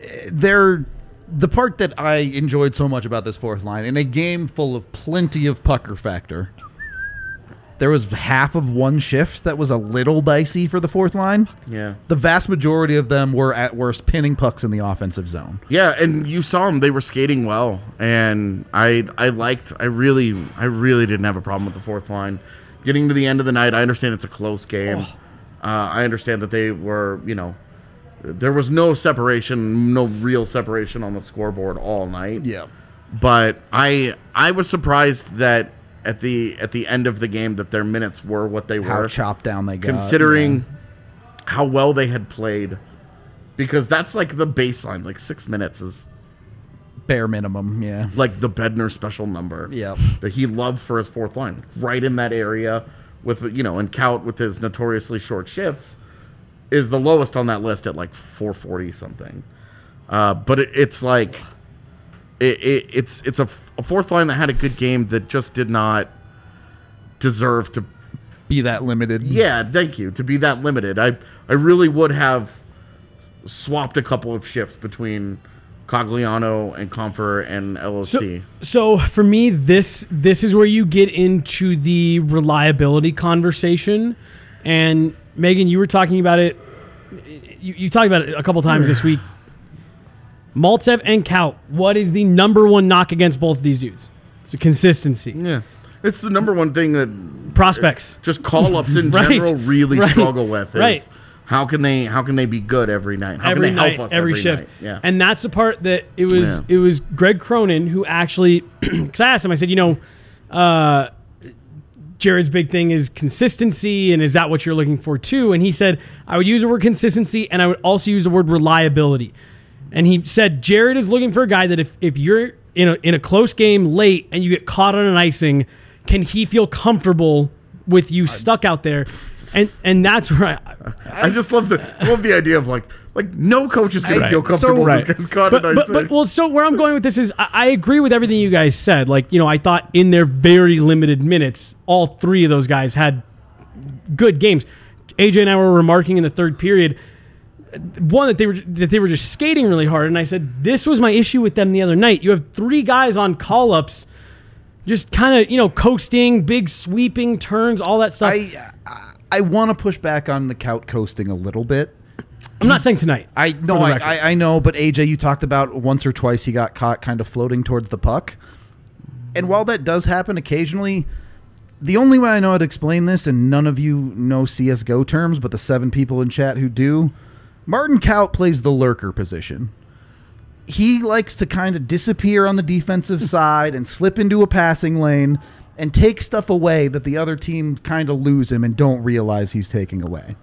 The part that I enjoyed so much about this fourth line, in a game full of plenty of pucker factor, there was half of one shift that was a little dicey for the fourth line. Yeah. The vast majority of them were at worst pinning pucks in the offensive zone. Yeah, and you saw them; they were skating well, and I really didn't have a problem with the fourth line. Getting to the end of the night, I understand it's a close game. I understand that they were, there was no separation, no real separation on the scoreboard all night. Yeah. But I was surprised that at the end of the game that their minutes were what they How were, chopped down they got. considering how well they had played. Because that's like the baseline. Like 6 minutes is bare minimum, yeah. like the Bednar special number. Yeah. That he loves for his fourth line. Right in that area with, and Kaut with his notoriously short shifts is the lowest on that list at like 440 something. But it's like it's a fourth line that had a good game that just did not deserve to. Be that limited. Yeah, thank you. To be that limited, I really would have swapped a couple of shifts between Cogliano and Comfer and LOC. So for me, this is where you get into the reliability conversation. And Megan, you were talking about it. You talked about it a couple times this week. Maltsev and Kaut. What is the number one knock against both of these dudes? It's a consistency. Yeah, it's the number one thing that Prospects. just call-ups in Right. general really Right. struggle with. Is Right. How can they be good every night? How Every can they night, help us every shift. night? Yeah. And that's the part that it was. Yeah. It was Greg Cronin who actually, because I asked him, I said, Jared's big thing is consistency, and is that what you're looking for too? And he said, I would use the word consistency, and I would also use the word reliability. And he said Jared is looking for a guy that if you're in a close game late and you get caught on an icing, can he feel comfortable with you stuck out there? And that's right. I just love the idea of like no coach is going to feel comfortable with this guy's caught in icing. So where I'm going with this is I agree with everything you guys said. Like, I thought in their very limited minutes, all three of those guys had good games. AJ and I were remarking in the third period, one, that they were just skating really hard, and I said this was my issue with them the other night. You have three guys on call-ups, just kind of coasting, big sweeping turns, all that stuff. I want to push back on the Kaut coasting a little bit. I'm not saying tonight. I know, but AJ, you talked about once or twice he got caught kind of floating towards the puck, and while that does happen occasionally, the only way I know how to explain this, and none of you know CSGO terms, but the 7 people in chat who do. Martin Kaut plays the lurker position. He likes to kind of disappear on the defensive side and slip into a passing lane and take stuff away that the other team kind of lose him and don't realize he's taking away.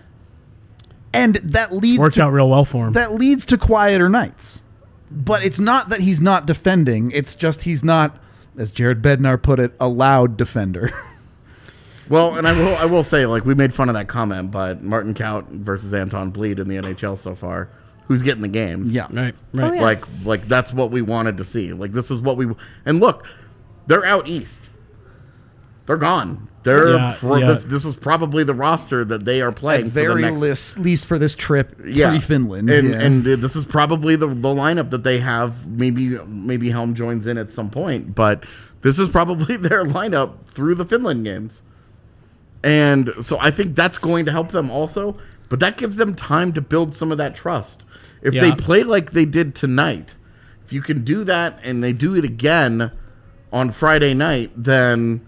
And that worked out real well for him. That leads to quieter nights. But it's not that he's not defending. It's just he's not, as Jared Bednar put it, a loud defender. Well, and I will say, we made fun of that comment, but Martin Kaut versus Anton Bleed in the NHL so far, who's getting the games? Yeah, right. Oh, yeah. Like that's what we wanted to see. This is what and look, they're out east. They're gone. This is probably the roster that they are playing. At very least for this trip, pre-Finland, and this is probably the lineup that they have. Maybe Helm joins in at some point, but this is probably their lineup through the Finland games. And so I think that's going to help them also, but that gives them time to build some of that trust. If they play like they did tonight, if you can do that and they do it again on Friday night, then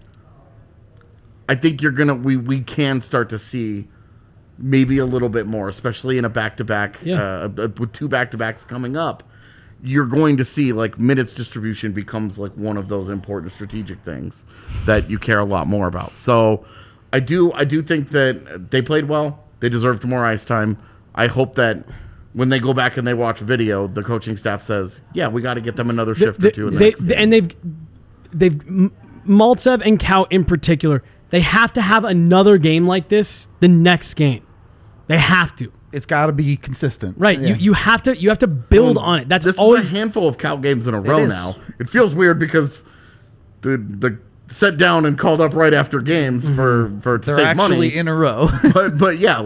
I think we can start to see maybe a little bit more, especially in a back-to-back, with 2 back-to-backs coming up. You're going to see minutes distribution becomes one of those important strategic things that you care a lot more about. So I do think that they played well. They deserved more ice time. I hope that when they go back and they watch video, the coaching staff says, "Yeah, we got to get them another shift or two." And they've Maltsev and Kaut in particular. They have to have another game like this the next game. They have to. It's got to be consistent, right? Yeah. You have to build on it. This always is a handful of Kaut games in a row now. It feels weird because the set down and called up right after games for to They're save money. Actually in a row. but yeah,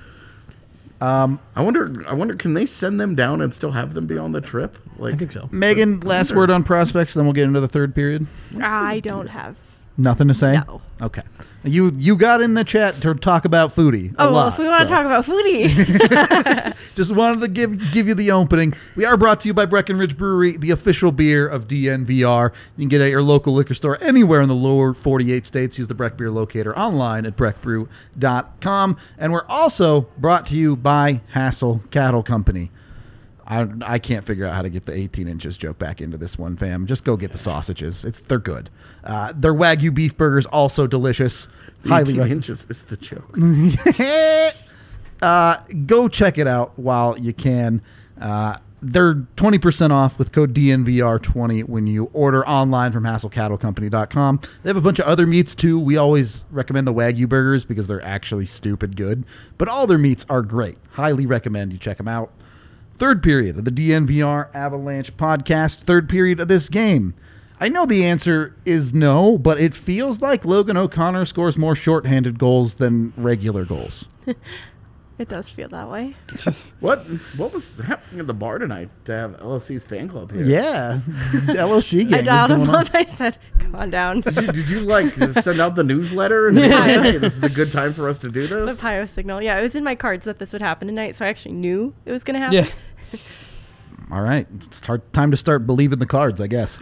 I wonder can they send them down and still have them be on the trip? I think so. Megan, last word on prospects, then we'll get into the third period. I don't have nothing to say. No. Okay. You got in the chat to talk about Foodie. If we want to talk about Foodie. Just wanted to give you the opening. We are brought to you by Breckenridge Brewery, the official beer of DNVR. You can get it at your local liquor store anywhere in the lower 48 states. Use the Breck Beer Locator online at breckbrew.com. And we're also brought to you by Hassel Cattle Company. I can't figure out how to get the 18 inches joke back into this one, fam. Just go get the sausages. They're good. Their Wagyu beef burgers also delicious. The 18 inches is the joke. Go check it out while you can. They're 20% off with code DNVR20 when you order online from HassleCattleCompany.com. They have a bunch of other meats too. We always recommend the Wagyu burgers because they're actually stupid good. But all their meats are great. Highly recommend you check them out. Third period of the DNVR Avalanche podcast. Third period of this game. I know the answer is no, but it feels like Logan O'Connor scores more shorthanded goals than regular goals. It does feel that way. What was happening at the bar tonight to have LOC's fan club here? Yeah, LOC gang. I dialed him up. I said, "Come on down." Did you send out the newsletter and hey, this is a good time for us to do this? The PIO signal. Yeah, it was in my cards that this would happen tonight, so I actually knew it was going to happen. Yeah. All right, it's time to start believing the cards, I guess.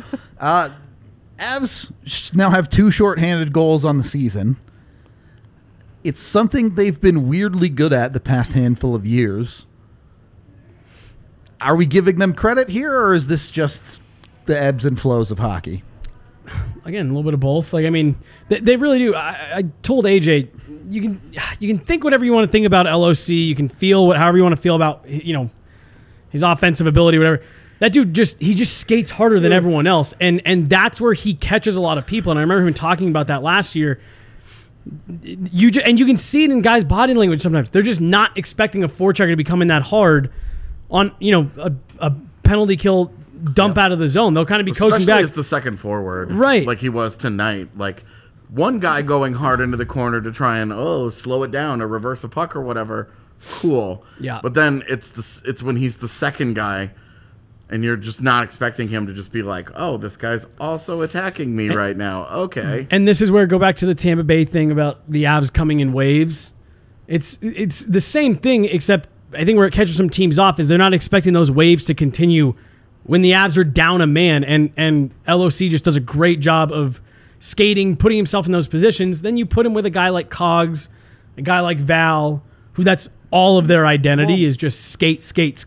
Avs now have 2 shorthanded goals on the season. It's something they've been weirdly good at the past handful of years. Are we giving them credit here, or is this just the ebbs and flows of hockey? Again, a little bit of both. They really do. I told AJ, you can think whatever you want to think about LOC. You can feel however you want to feel about his offensive ability, whatever. That dude he just skates harder than everyone else, and that's where he catches a lot of people. And I remember him talking about that last year. You can see it in guys' body language sometimes. They're just not expecting a forechecker to be coming that hard on a penalty kill dump out of the zone. They'll kind of be coasting Especially back. as the second forward, Right? Like he was tonight. Like one guy going hard into the corner to try and slow it down or reverse a puck or whatever. Cool. Yeah. But then it's when he's the second guy. And you're just not expecting him to just be like, oh, this guy's also attacking me right now. Okay. And this is where I go back to the Tampa Bay thing about the Avs coming in waves. It's the same thing, except I think where it catches some teams off is they're not expecting those waves to continue when the Avs are down a man. And LOC just does a great job of skating, putting himself in those positions. Then you put him with a guy like Cogs, a guy like Val, who that's all of their identity is just skate.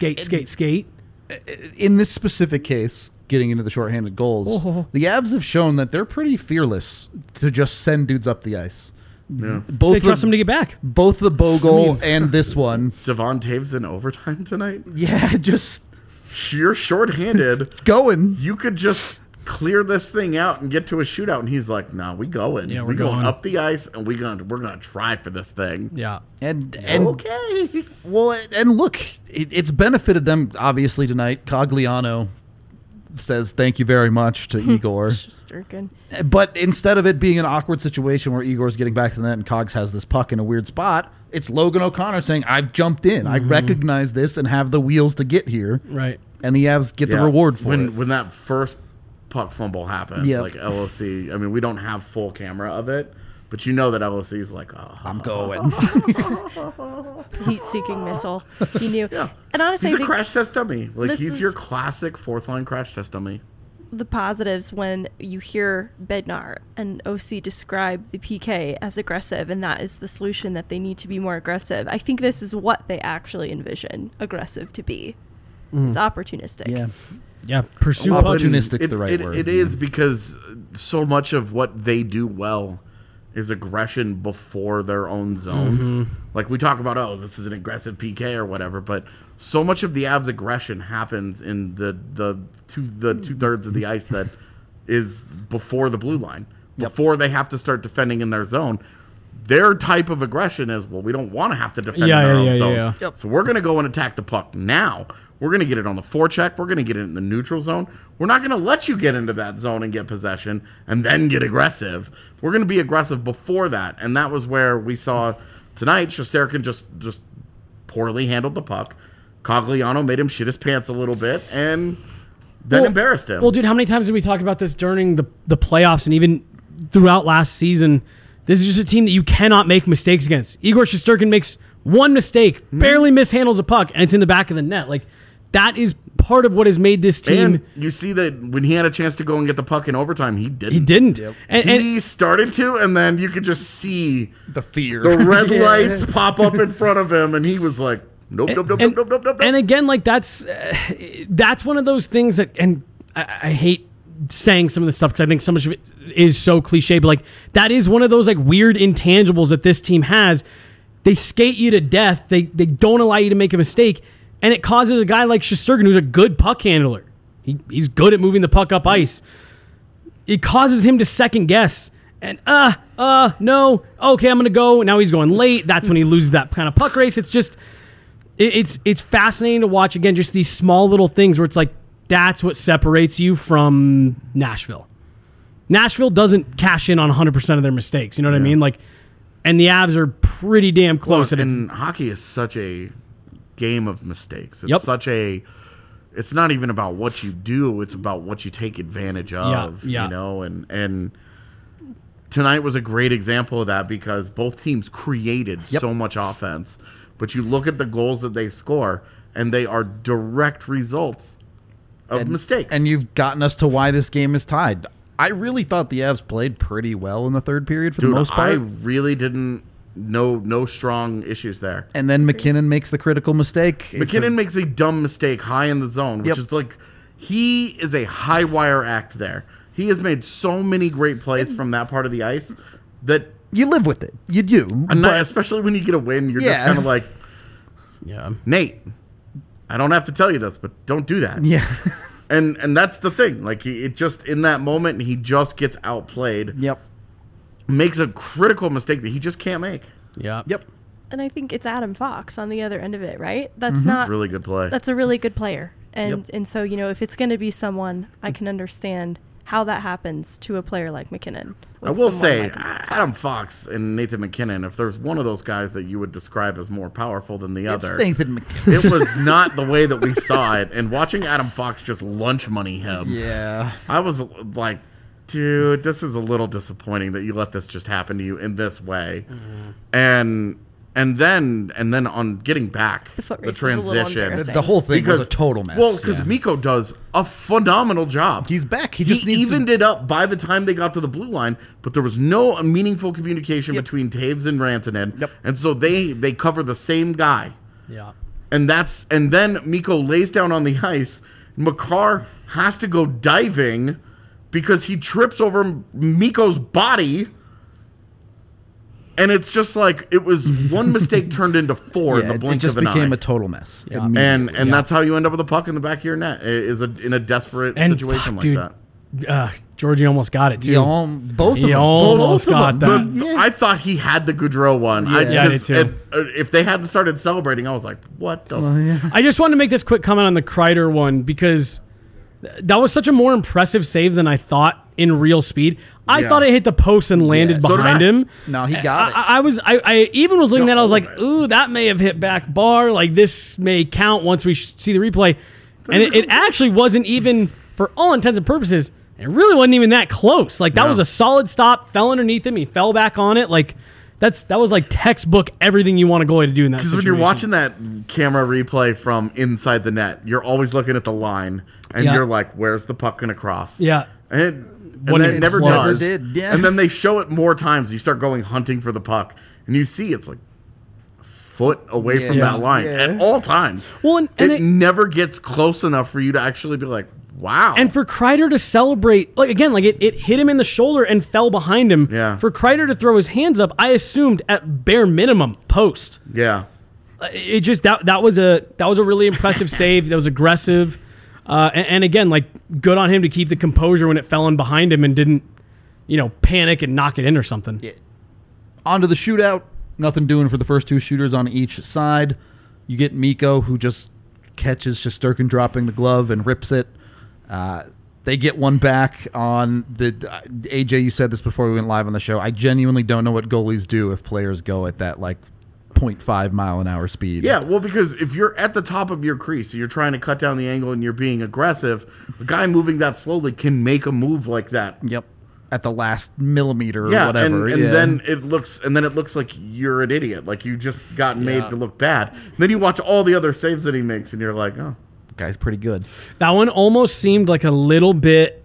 In this specific case, getting into the shorthanded goals, the Avs have shown that they're pretty fearless to just send dudes up the ice. Yeah. They trust him to get back. Both the Bo goal and this one. Devon Taves in overtime tonight? Yeah, just You're shorthanded. going. You could just clear this thing out and get to a shootout. And he's like, no, we going. Yeah, we're going up the ice, and we're gonna try for this thing. Yeah. And Okay. well, and look, it's benefited them obviously tonight. Cogliano says thank you very much to Igor. Shesterkin. But instead of it being an awkward situation where Igor's getting back to the net and Cogs has this puck in a weird spot, it's Logan O'Connor saying, I've jumped in. I recognize this and have the wheels to get here. Right. And the Avs get the reward for it. When that first puck fumble happened, Yep. like LOC, I mean, we don't have full camera of it, but you know that LOC is like, I'm going. Heat-seeking missile. He knew. Yeah. And honestly, he's I a think crash test dummy. Like, this he's is- your classic fourth-line crash test dummy. the positives when you hear Bednar and OC describe the PK as aggressive, and that is the solution, that they need to be more aggressive. I think this is what they actually envision aggressive to be. It's opportunistic. Yeah. Yeah. Pursue Well, pucks. opportunistic's the right word. It is because so much of what they do well is aggression before their own zone. Like we talk about, this is an aggressive PK or whatever, but so much of the Avs' aggression happens in the two-thirds of the ice that is before the blue line, before they have to start defending in their zone. Their type of aggression is, we don't want to have to defend in our own zone. Yeah. So we're going to go and attack the puck now. We're going to get it on the forecheck. We're going to get it in the neutral zone. We're not going to let you get into that zone and get possession and then get aggressive. We're going to be aggressive before that. And that was where we saw tonight, Shesterkin just poorly handled the puck. Cogliano made him shit his pants a little bit and then embarrassed him. Well, dude, how many times did we talk about this during the playoffs and even throughout last season? This is just a team that you cannot make mistakes against. Igor Shesterkin makes one mistake, barely mishandles a puck, and it's in the back of the net. Like, that is part of what has made this team. And you see that when he had a chance to go and get the puck in overtime, he didn't. He didn't. And He started to, and then you could just see The fear. the red lights pop up in front of him, and he was like, nope. And again, like that's one of those things that, and I hate saying some of this stuff because I think so much of it is so cliche, but like that is one of those like weird intangibles that this team has. They skate you to death. They don't allow you to make a mistake, and it causes a guy like Shesterkin, who's a good puck handler. He's good at moving the puck up ice. It causes him to second guess. And no, okay, I'm gonna go. Now he's going late. That's when he loses that kind of puck race. It's just it's fascinating to watch, again, just these small little things where it's like that's what separates you from Nashville. Nashville doesn't cash in on 100% of their mistakes. You know what I mean? Like, and the Avs are pretty damn close. And hockey is such a game of mistakes. It's it's not even about what you do, it's about what you take advantage of. Yeah. You know, and tonight was a great example of that because both teams created so much offense. But you look at the goals that they score, and they are direct results of mistakes. And you've gotten us to why this game is tied. I really thought the Avs played pretty well in the third period for the most part. I really didn't. No strong issues there. And then McKinnon makes the critical mistake. McKinnon makes a dumb mistake high in the zone, which is like, he is a high wire act there. He has made so many great plays from that part of the ice that You live with it. You do. especially when you get a win, you're just kind of like, yeah. Nate, I don't have to tell you this, but don't do that. Yeah. And that's the thing. Like, it just, in that moment, he just gets outplayed. Yep. Makes a critical mistake that he just can't make. Yeah. Yep. And I think it's Adam Fox on the other end of it, right? That's not Really good play. That's a really good player. And Yep. and so, if it's going to be someone, I can understand how that happens to a player like McKinnon. I with will someone say, like Adam Fox and Nathan McKinnon, if there's one of those guys that you would describe as more powerful than the It's other, Nathan McKinnon. it was not the way that we saw it. And watching Adam Fox just lunch money him, Yeah. I was like, dude, this is a little disappointing that you let this just happen to you in this way. And then on getting back The foot the race was a little transition, embarrassing. The whole thing was a total mess. Well, because yeah. Miko does a phenomenal job. He's back. He He just needs evened to, it up by the time they got to the blue line, but there was no meaningful communication Yep. between Taves and Rantanen. Yep. And so they cover the same guy. Yeah. And then Miko lays down on the ice. Makar has to go diving because he trips over Miko's body. And it's just like it was one mistake turned into four in the it blink just of an became eye. a total mess. Yeah. immediately. And that's how you end up with a puck in the back of your net in a desperate And situation fuck, like dude, that. Georgie almost got it too. Both of He them. almost Both of got them. that. I thought he had the Goudreau one. Yeah. Yeah, I did too. If they hadn't started celebrating, I was like, what the? I just wanted to make this quick comment on the Kreider one because that was such a more impressive save than I thought in real speed. I Yeah. thought it hit the post and landed so did behind I. him. No, he got it. I even was looking No, at it, I was all like, of it. ooh, that may have hit back bar. Like, this may count once we see the replay. And it actually wasn't even, for all intents and purposes, it really wasn't even that close. Like, that No. was a solid stop, fell underneath him, he fell back on it. Like, that was like textbook everything you want a goalie to do in that Because situation. when you're watching that camera replay from inside the net, you're always looking at the line, and Yeah. you're like, where's the puck going to cross? Yeah. And When then it it never close. does. Never did, yeah. And then they show it more times. You start going hunting for the puck, and you see it's like a foot away from Yeah. that line Yeah. at all times. Well, and it it- never gets close enough for you to actually be like, wow. And for Kreider to celebrate, like again, like it hit him in the shoulder and fell behind him. Yeah. For Kreider to throw his hands up, I assumed at bare minimum post. yeah. It just that was a really impressive save. That was aggressive, and again, like good on him to keep the composure when it fell in behind him and didn't, panic and knock it in or something. Onto the shootout. Nothing doing for the first two shooters on each side. You get Miko, who just catches Shesterkin dropping the glove and rips it. They get one back on the AJ. You said this before we went live on the show. I genuinely don't know what goalies do if players go at that 0.5 mile an hour speed. Yeah, well, because if you're at the top of your crease, so you're trying to cut down the angle and you're being aggressive, a guy moving that slowly can make a move like that. Yep. At the last millimeter or Yeah, whatever. and yeah. then it looks like you're an idiot, like you just got made Yeah. to look bad. And then you watch all the other saves that he makes, and you're like, oh, guy's pretty good. That one almost seemed like a little bit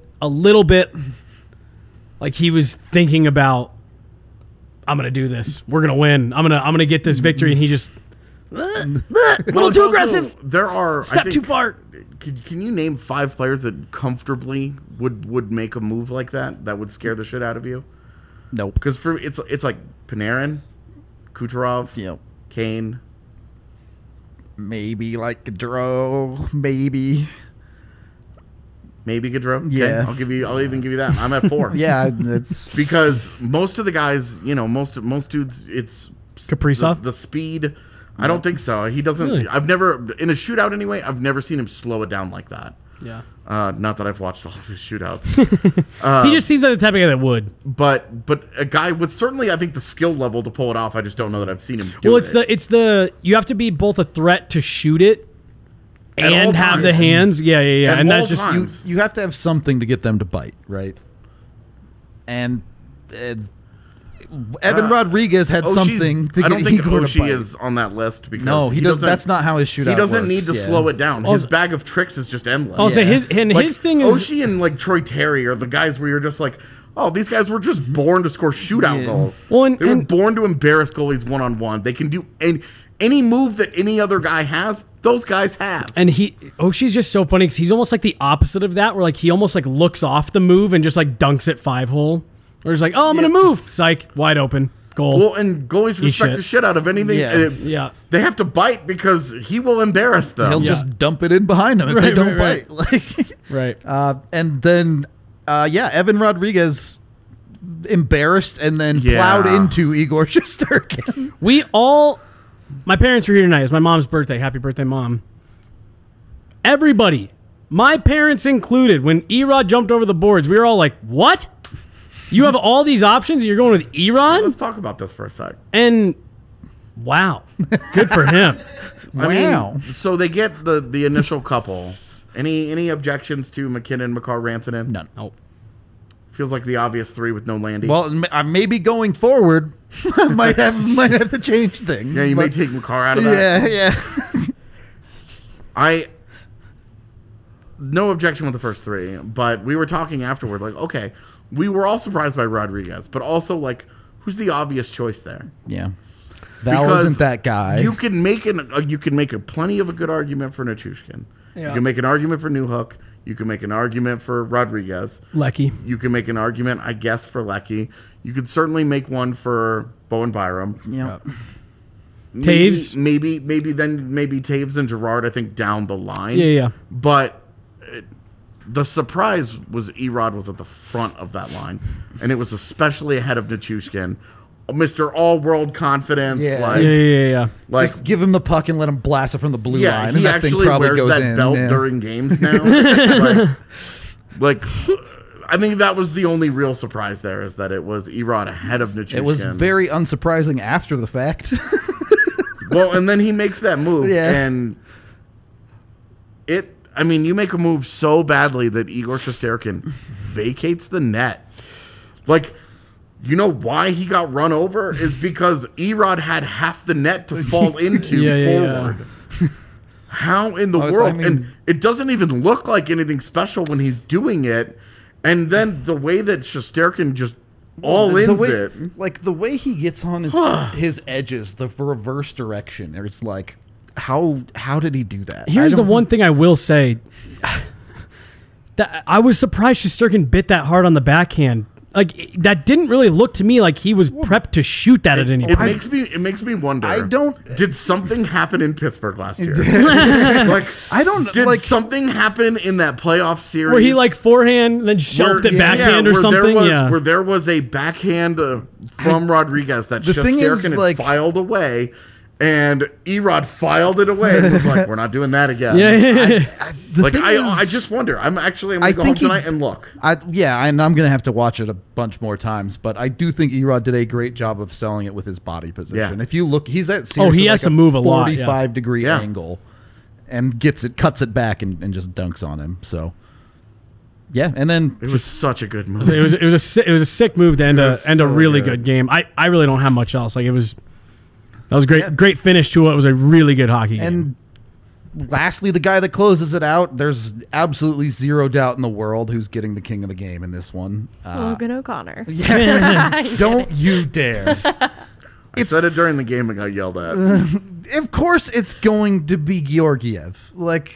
like he was thinking about, I'm gonna do this. We're gonna win. I'm gonna get this victory, and he just a little Well, it's too also- aggressive. There are I Step think- too far. Can you name 5 players that comfortably would make a move like that would scare the shit out of you? Nope. Because for it's like Panarin, Kucherov, Yep. Kane. Maybe Gaudreau. Maybe. Maybe Gaudreau. Okay, Yeah. I'll even give you that. I'm at 4. Yeah, that's Because most of the guys, most dudes, it's Kaprizov? The speed. I don't think so. He doesn't. Really? I've never in a shootout anyway. I've never seen him slow it down like that. Yeah. Not that I've watched all of his shootouts, He just seems like the type of guy that would. but a guy with certainly I think the skill level to pull it off. I just don't know that I've seen him do Well, it. it's the you have to be both a threat to shoot it At all and have the times. hands. Yeah. At And all that's just times. you have to have something to get them to bite, right? And Evan Rodriguez had Oshie's- something to I don't get think Igor to Oshie bite. is on that list because No, he does. doesn't- That's not how his shootout. He doesn't works, need to yeah. slow it down. His bag of tricks is just endless. I'll say Yeah. his thing is Oshie and Troy Terry are the guys where you're just like, oh, these guys were just born to score shootout Yeah. goals. Well, and- they were and- born to embarrass goalies one-on-one. They can do any move that any other guy has, those guys have. And Oshie's just so funny because he's almost like the opposite of that, where he almost looks off the move and just dunks it 5-hole. Or he's like, oh, I'm gonna move, psych, wide open. Goal. Well, and goalies respect shit. the shit out of anything. Yeah. Yeah. They have to bite because he will embarrass them. He'll just dump it in behind him if they Right, don't right, bite. Like, Right. and then, Evan Rodriguez embarrassed and then Yeah. plowed into Igor Shesterkin. My parents were here tonight. It's my mom's birthday. Happy birthday, Mom. Everybody, my parents included, when Erod jumped over the boards, we were all like, what? You have all these options and you're going with Let's Erod? talk about this for a sec. And wow. Good for him. Wow. So they get the initial couple. Any objections to McKinnon, McCarr, Rantanen? None. Oh. Feels like the obvious three with no Landy. Well, maybe going forward, I might have to change things. yeah, you may but- take McCarr out of that. Yeah. No objection with the first three, but we were talking afterward, like, okay, we were all surprised by Rodriguez, but also, like, who's the obvious choice there? Yeah. Val Because isn't that guy. You can make a plenty of a good argument for Nichushkin. You Yeah. can make an argument for Newhook. You can make an argument for Rodriguez. Lecky. You can make an argument, I guess, for Lecky. You could certainly make one for Bowen Byram. Yeah. Taves? Maybe Taves and Gerard, I think, down the line. Yeah. But the surprise was Erod was at the front of that line, and it was especially ahead of Nichushkin, Mr. All-World confidence. Yeah. Yeah. Like Just give him the puck and let him blast it from the blue yeah, line. he and that thing actually probably wears goes that in. belt yeah. during games now. like, I think that was the only real surprise there, is that it was Erod ahead of Nichushkin. It was very unsurprising after the fact. well, and then he makes that move, Yeah. and you make a move so badly that Igor Shesterkin vacates the net. Like, you know why he got run over is because Erod had half the net to fall into forward. How in the world? And it doesn't even look like anything special when he's doing it. And then the way that Shesterkin just ins it. Like the way he gets on his edges, the reverse direction. It's like, how did he do that? Here's the one thing I will say. That I was surprised Shesterkin bit that hard on the backhand. Like, that didn't really look to me like he was prepped to shoot that at any It point. makes me wonder. I Did something happen in Pittsburgh last year? Like, I don't did like something happen in that playoff series Where he like forehand, then shoved it backhand or where something. Where there was a backhand from Rodriguez that the thing is, Shesterkin had like- filed away, and Erod filed it away and was like, "We're not doing that again." Yeah. Like thing I is- just wonder. I'm gonna go I home think he- tonight and look. and I'm gonna have to watch it a bunch more times. But I do think Erod did a great job of selling it with his body position. Yeah. If you look, he's at he has to move a lot, yeah. 45-degree Yeah. angle, and cuts it back and just dunks on him. So yeah, and then It was such a good move. It was a sick move to end was a so really good. good game. I really don't have much else. Like, that was great. Great finish to what was a really good hockey game. And lastly, the guy that closes it out, there's absolutely zero doubt in the world who's getting the king of the game in this one. Logan O'Connor. Don't you dare. I said it during the game and got yelled at. Of course it's going to be Georgiev. Like,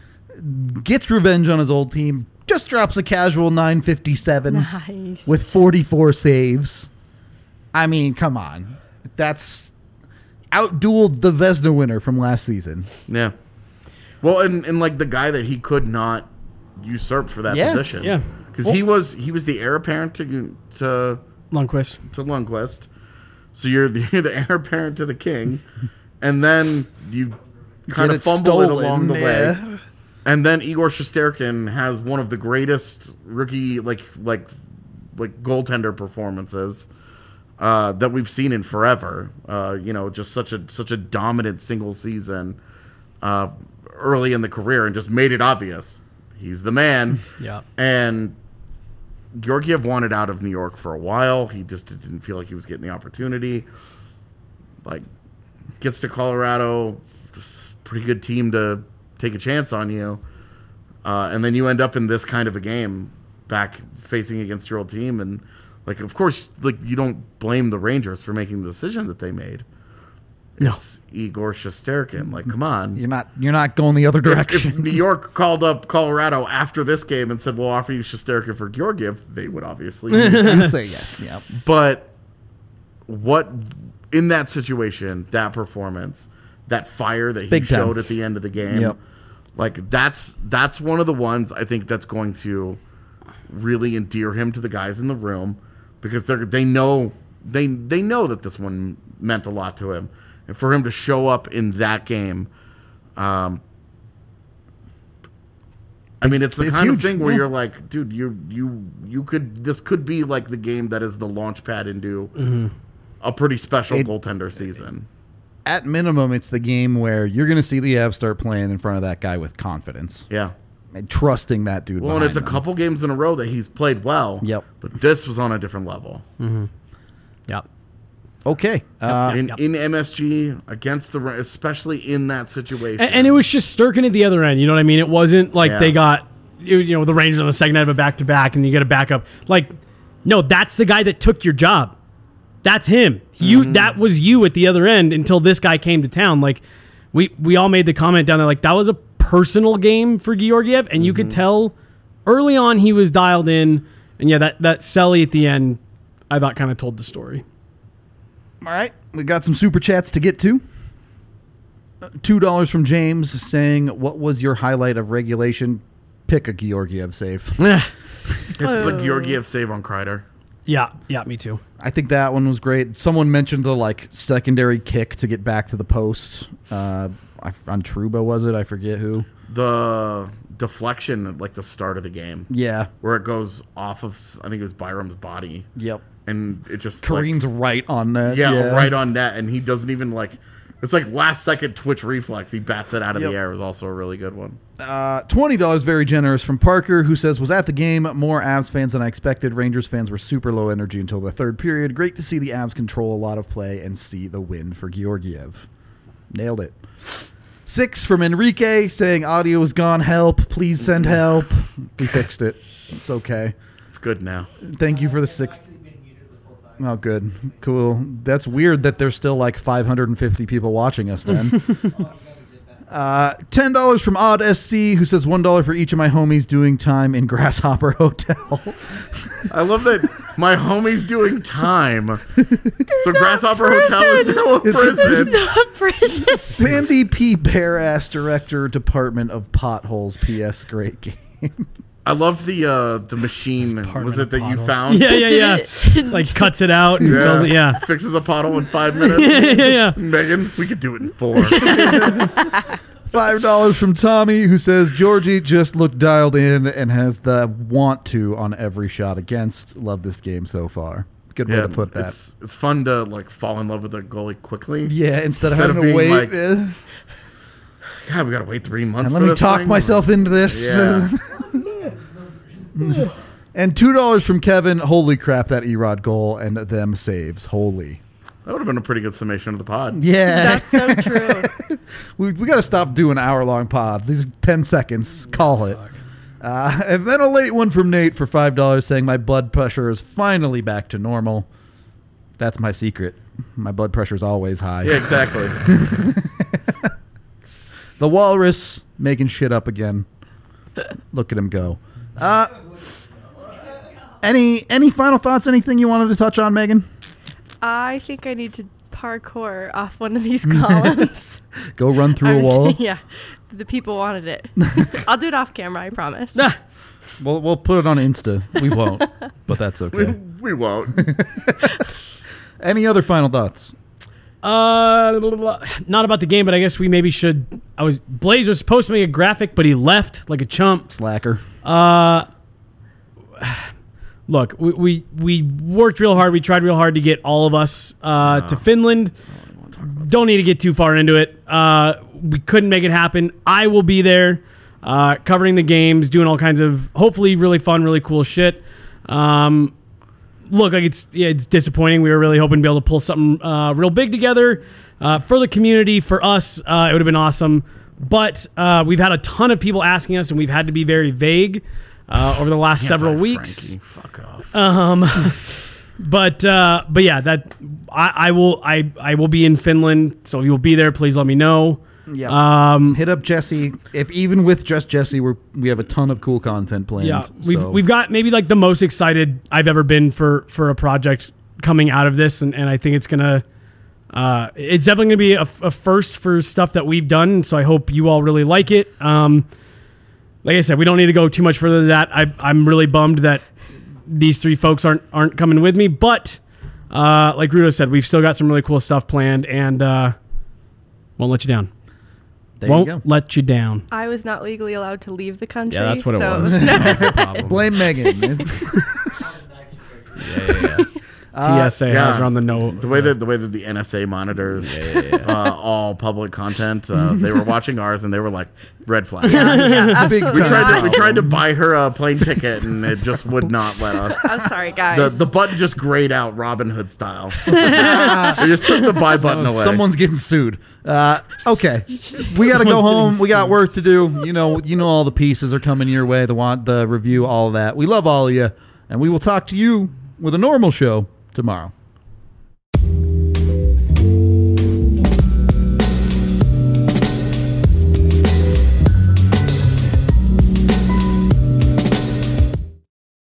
gets revenge on his old team, just drops a casual 957 Nice. with 44 saves. I mean, come on. That's outdueled the Vezina winner from last season. Yeah. Well, and like the guy that he could not usurp for that Yeah. position. Yeah. Because he was the heir apparent to Lundqvist. Lundqvist. So you're the heir apparent to the king, and then you kind Get of it fumble it stolen, along the yeah. way. And then Igor Shesterkin has one of the greatest rookie like goaltender performances that we've seen in forever. Just such a dominant single season early in the career, and just made it obvious he's the man. Yeah. And Georgiev wanted out of New York for a while. He just didn't feel like he was getting the opportunity. Like, gets to Colorado, this pretty good team to take a chance on you. And then you end up in this kind of a game back facing against your old team. And, like, of course, like, you don't blame the Rangers for making the decision that they made. No. It's Igor Shesterkin. Like, come on. You're not going the other If direction. New York called up Colorado after this game and said, we'll offer you Shesterkin for Georgiev, they would obviously. You say yes. Yeah. But what in that situation, that performance, that fire that he Big time. showed at the end of the game, Yep. like that's one of the ones I think that's going to really endear him to the guys in the room, because they know that this one meant a lot to him, and for him to show up in that game, I mean, it's the kind huge. of thing where Yeah. you're like, dude, this could be like the game that is the launch pad into a pretty special goaltender season. At minimum, it's the game where you're going to see the Avs start playing in front of that guy with confidence Yeah. and trusting that dude. Well, and it's a behind them. couple games in a row that he's played well. Yep. But this was on a different level. Yeah. Okay. In MSG against especially in that situation. And it was just Sturkin at the other end. You know what I mean? It wasn't like Yeah. they got, the Rangers on the second night of a back-to-back and you get a backup. Like, no, that's the guy that took your job. That's him. That was you at the other end until this guy came to town. Like, we all made the comment down there, like, that was a personal game for Georgiev, and you could tell early on he was dialed in. And yeah, that Selly at the end, I thought kind of told the story. All right. We got some super chats to get to. $2 from James saying, what was your highlight of regulation? Pick a Georgiev save. It's the Georgiev save on Kreider. Yeah, me too. I think that one was great. Someone mentioned the secondary kick to get back to the post. On Trouba, was it? I forget who. The deflection at the start of the game. Yeah. Where it goes off of, I think it was Byram's body. Yep. And it just Careen's right on net. Yeah, right on net, and he doesn't even it's like last second twitch reflex. He bats it out of the air. It was also a really good one. $20 very generous from Parker, who says, was at the game, more Avs fans than I expected. Rangers fans were super low energy until the third period. Great to see the Avs control a lot of play and see the win for Georgiev. Nailed it. 6 from Enrique saying audio is gone. Help. Please send help. We fixed it. It's okay. It's good now. Thank you for the 6th. Oh, good. Cool. That's weird that there's still 550 people watching us then. $10 from Odd SC, who says $1 for each of my homies doing time in Grasshopper Hotel. I love that my homie's doing time. So Grasshopper Hotel is now a prison. It's not prison. Sandy P. Barass, Director, Department of Potholes. P.S. Great game. I love the machine. Was it that you Potholes. found? Yeah. Like cuts it out and fills it. Yeah. Fixes a pothole in 5 minutes. yeah. Megan, we could do it in 4. $5 from Tommy, who says Georgie just looked dialed in and has the want to on every shot against. Love this game so far. Good way to put that. It's fun to fall in love with a goalie quickly. Yeah, instead of Instead having of to being wait. God, we gotta wait 3 months. And for let me this talk thing? myself into this. Yeah. And $2 from Kevin. Holy crap, that Erod goal and them saves. Holy. That would have been a pretty good summation of the pod. Yeah. That's so true. we got to stop doing hour-long pods. These are 10 seconds. Call it. And then a late one from Nate for $5 saying my blood pressure is finally back to normal. That's my secret. My blood pressure is always high. Yeah, exactly. The Walrus making shit up again. Look at him go. Any final thoughts? Anything you wanted to touch on, Megan? I think I need to parkour off one of these columns. Go run through a wall. Yeah. The people wanted it. I'll do it off camera, I promise. We'll put it on Insta. We won't, but that's okay. We won't. Any other final thoughts? Not about the game, but I guess we maybe should. Blaze was supposed to make a graphic, but he left like a chump. Slacker. Look, we worked real hard. We tried real hard to get all of us to Finland. Don't need to get too far into it. We couldn't make it happen. I will be there covering the games, doing all kinds of hopefully really fun, really cool shit. Look, like it's disappointing. We were really hoping to be able to pull something real big together for the community, for us. It would have been awesome. But we've had a ton of people asking us, and we've had to be very vague over the last several weeks. Fuck off. But yeah, that I will be in Finland. So if you'll be there, please let me know. Yeah. Hit up Jesse. If even with just Jesse, we have a ton of cool content planned. Yeah, so. we've got maybe like the most excited I've ever been for a project coming out of this, and I think it's gonna. It's definitely gonna be a first for stuff that we've done. So I hope you all really like it. Like I said, we don't need to go too much further than that. I'm really bummed that these three folks aren't coming with me, but like Rudo said, we've still got some really cool stuff planned, and won't let you down. There Won't you go. let you down. I was not legally allowed to leave the country. Yeah, that's what it so was. That's the problem. Blame Megan. TSA has her on the note. The way that the NSA monitors all public content, they were watching ours and they were like red flag. Yeah, Big absolutely time. We not. tried to buy her a plane ticket and it just would not let us. I'm sorry, guys. The button just grayed out Robin Hood style. They just took the buy button away. Someone's getting sued. Okay, we got to go Someone's home. getting We got work to do. You know all the pieces are coming your way. The review, all of that. We love all of you, and we will talk to you with a normal show tomorrow.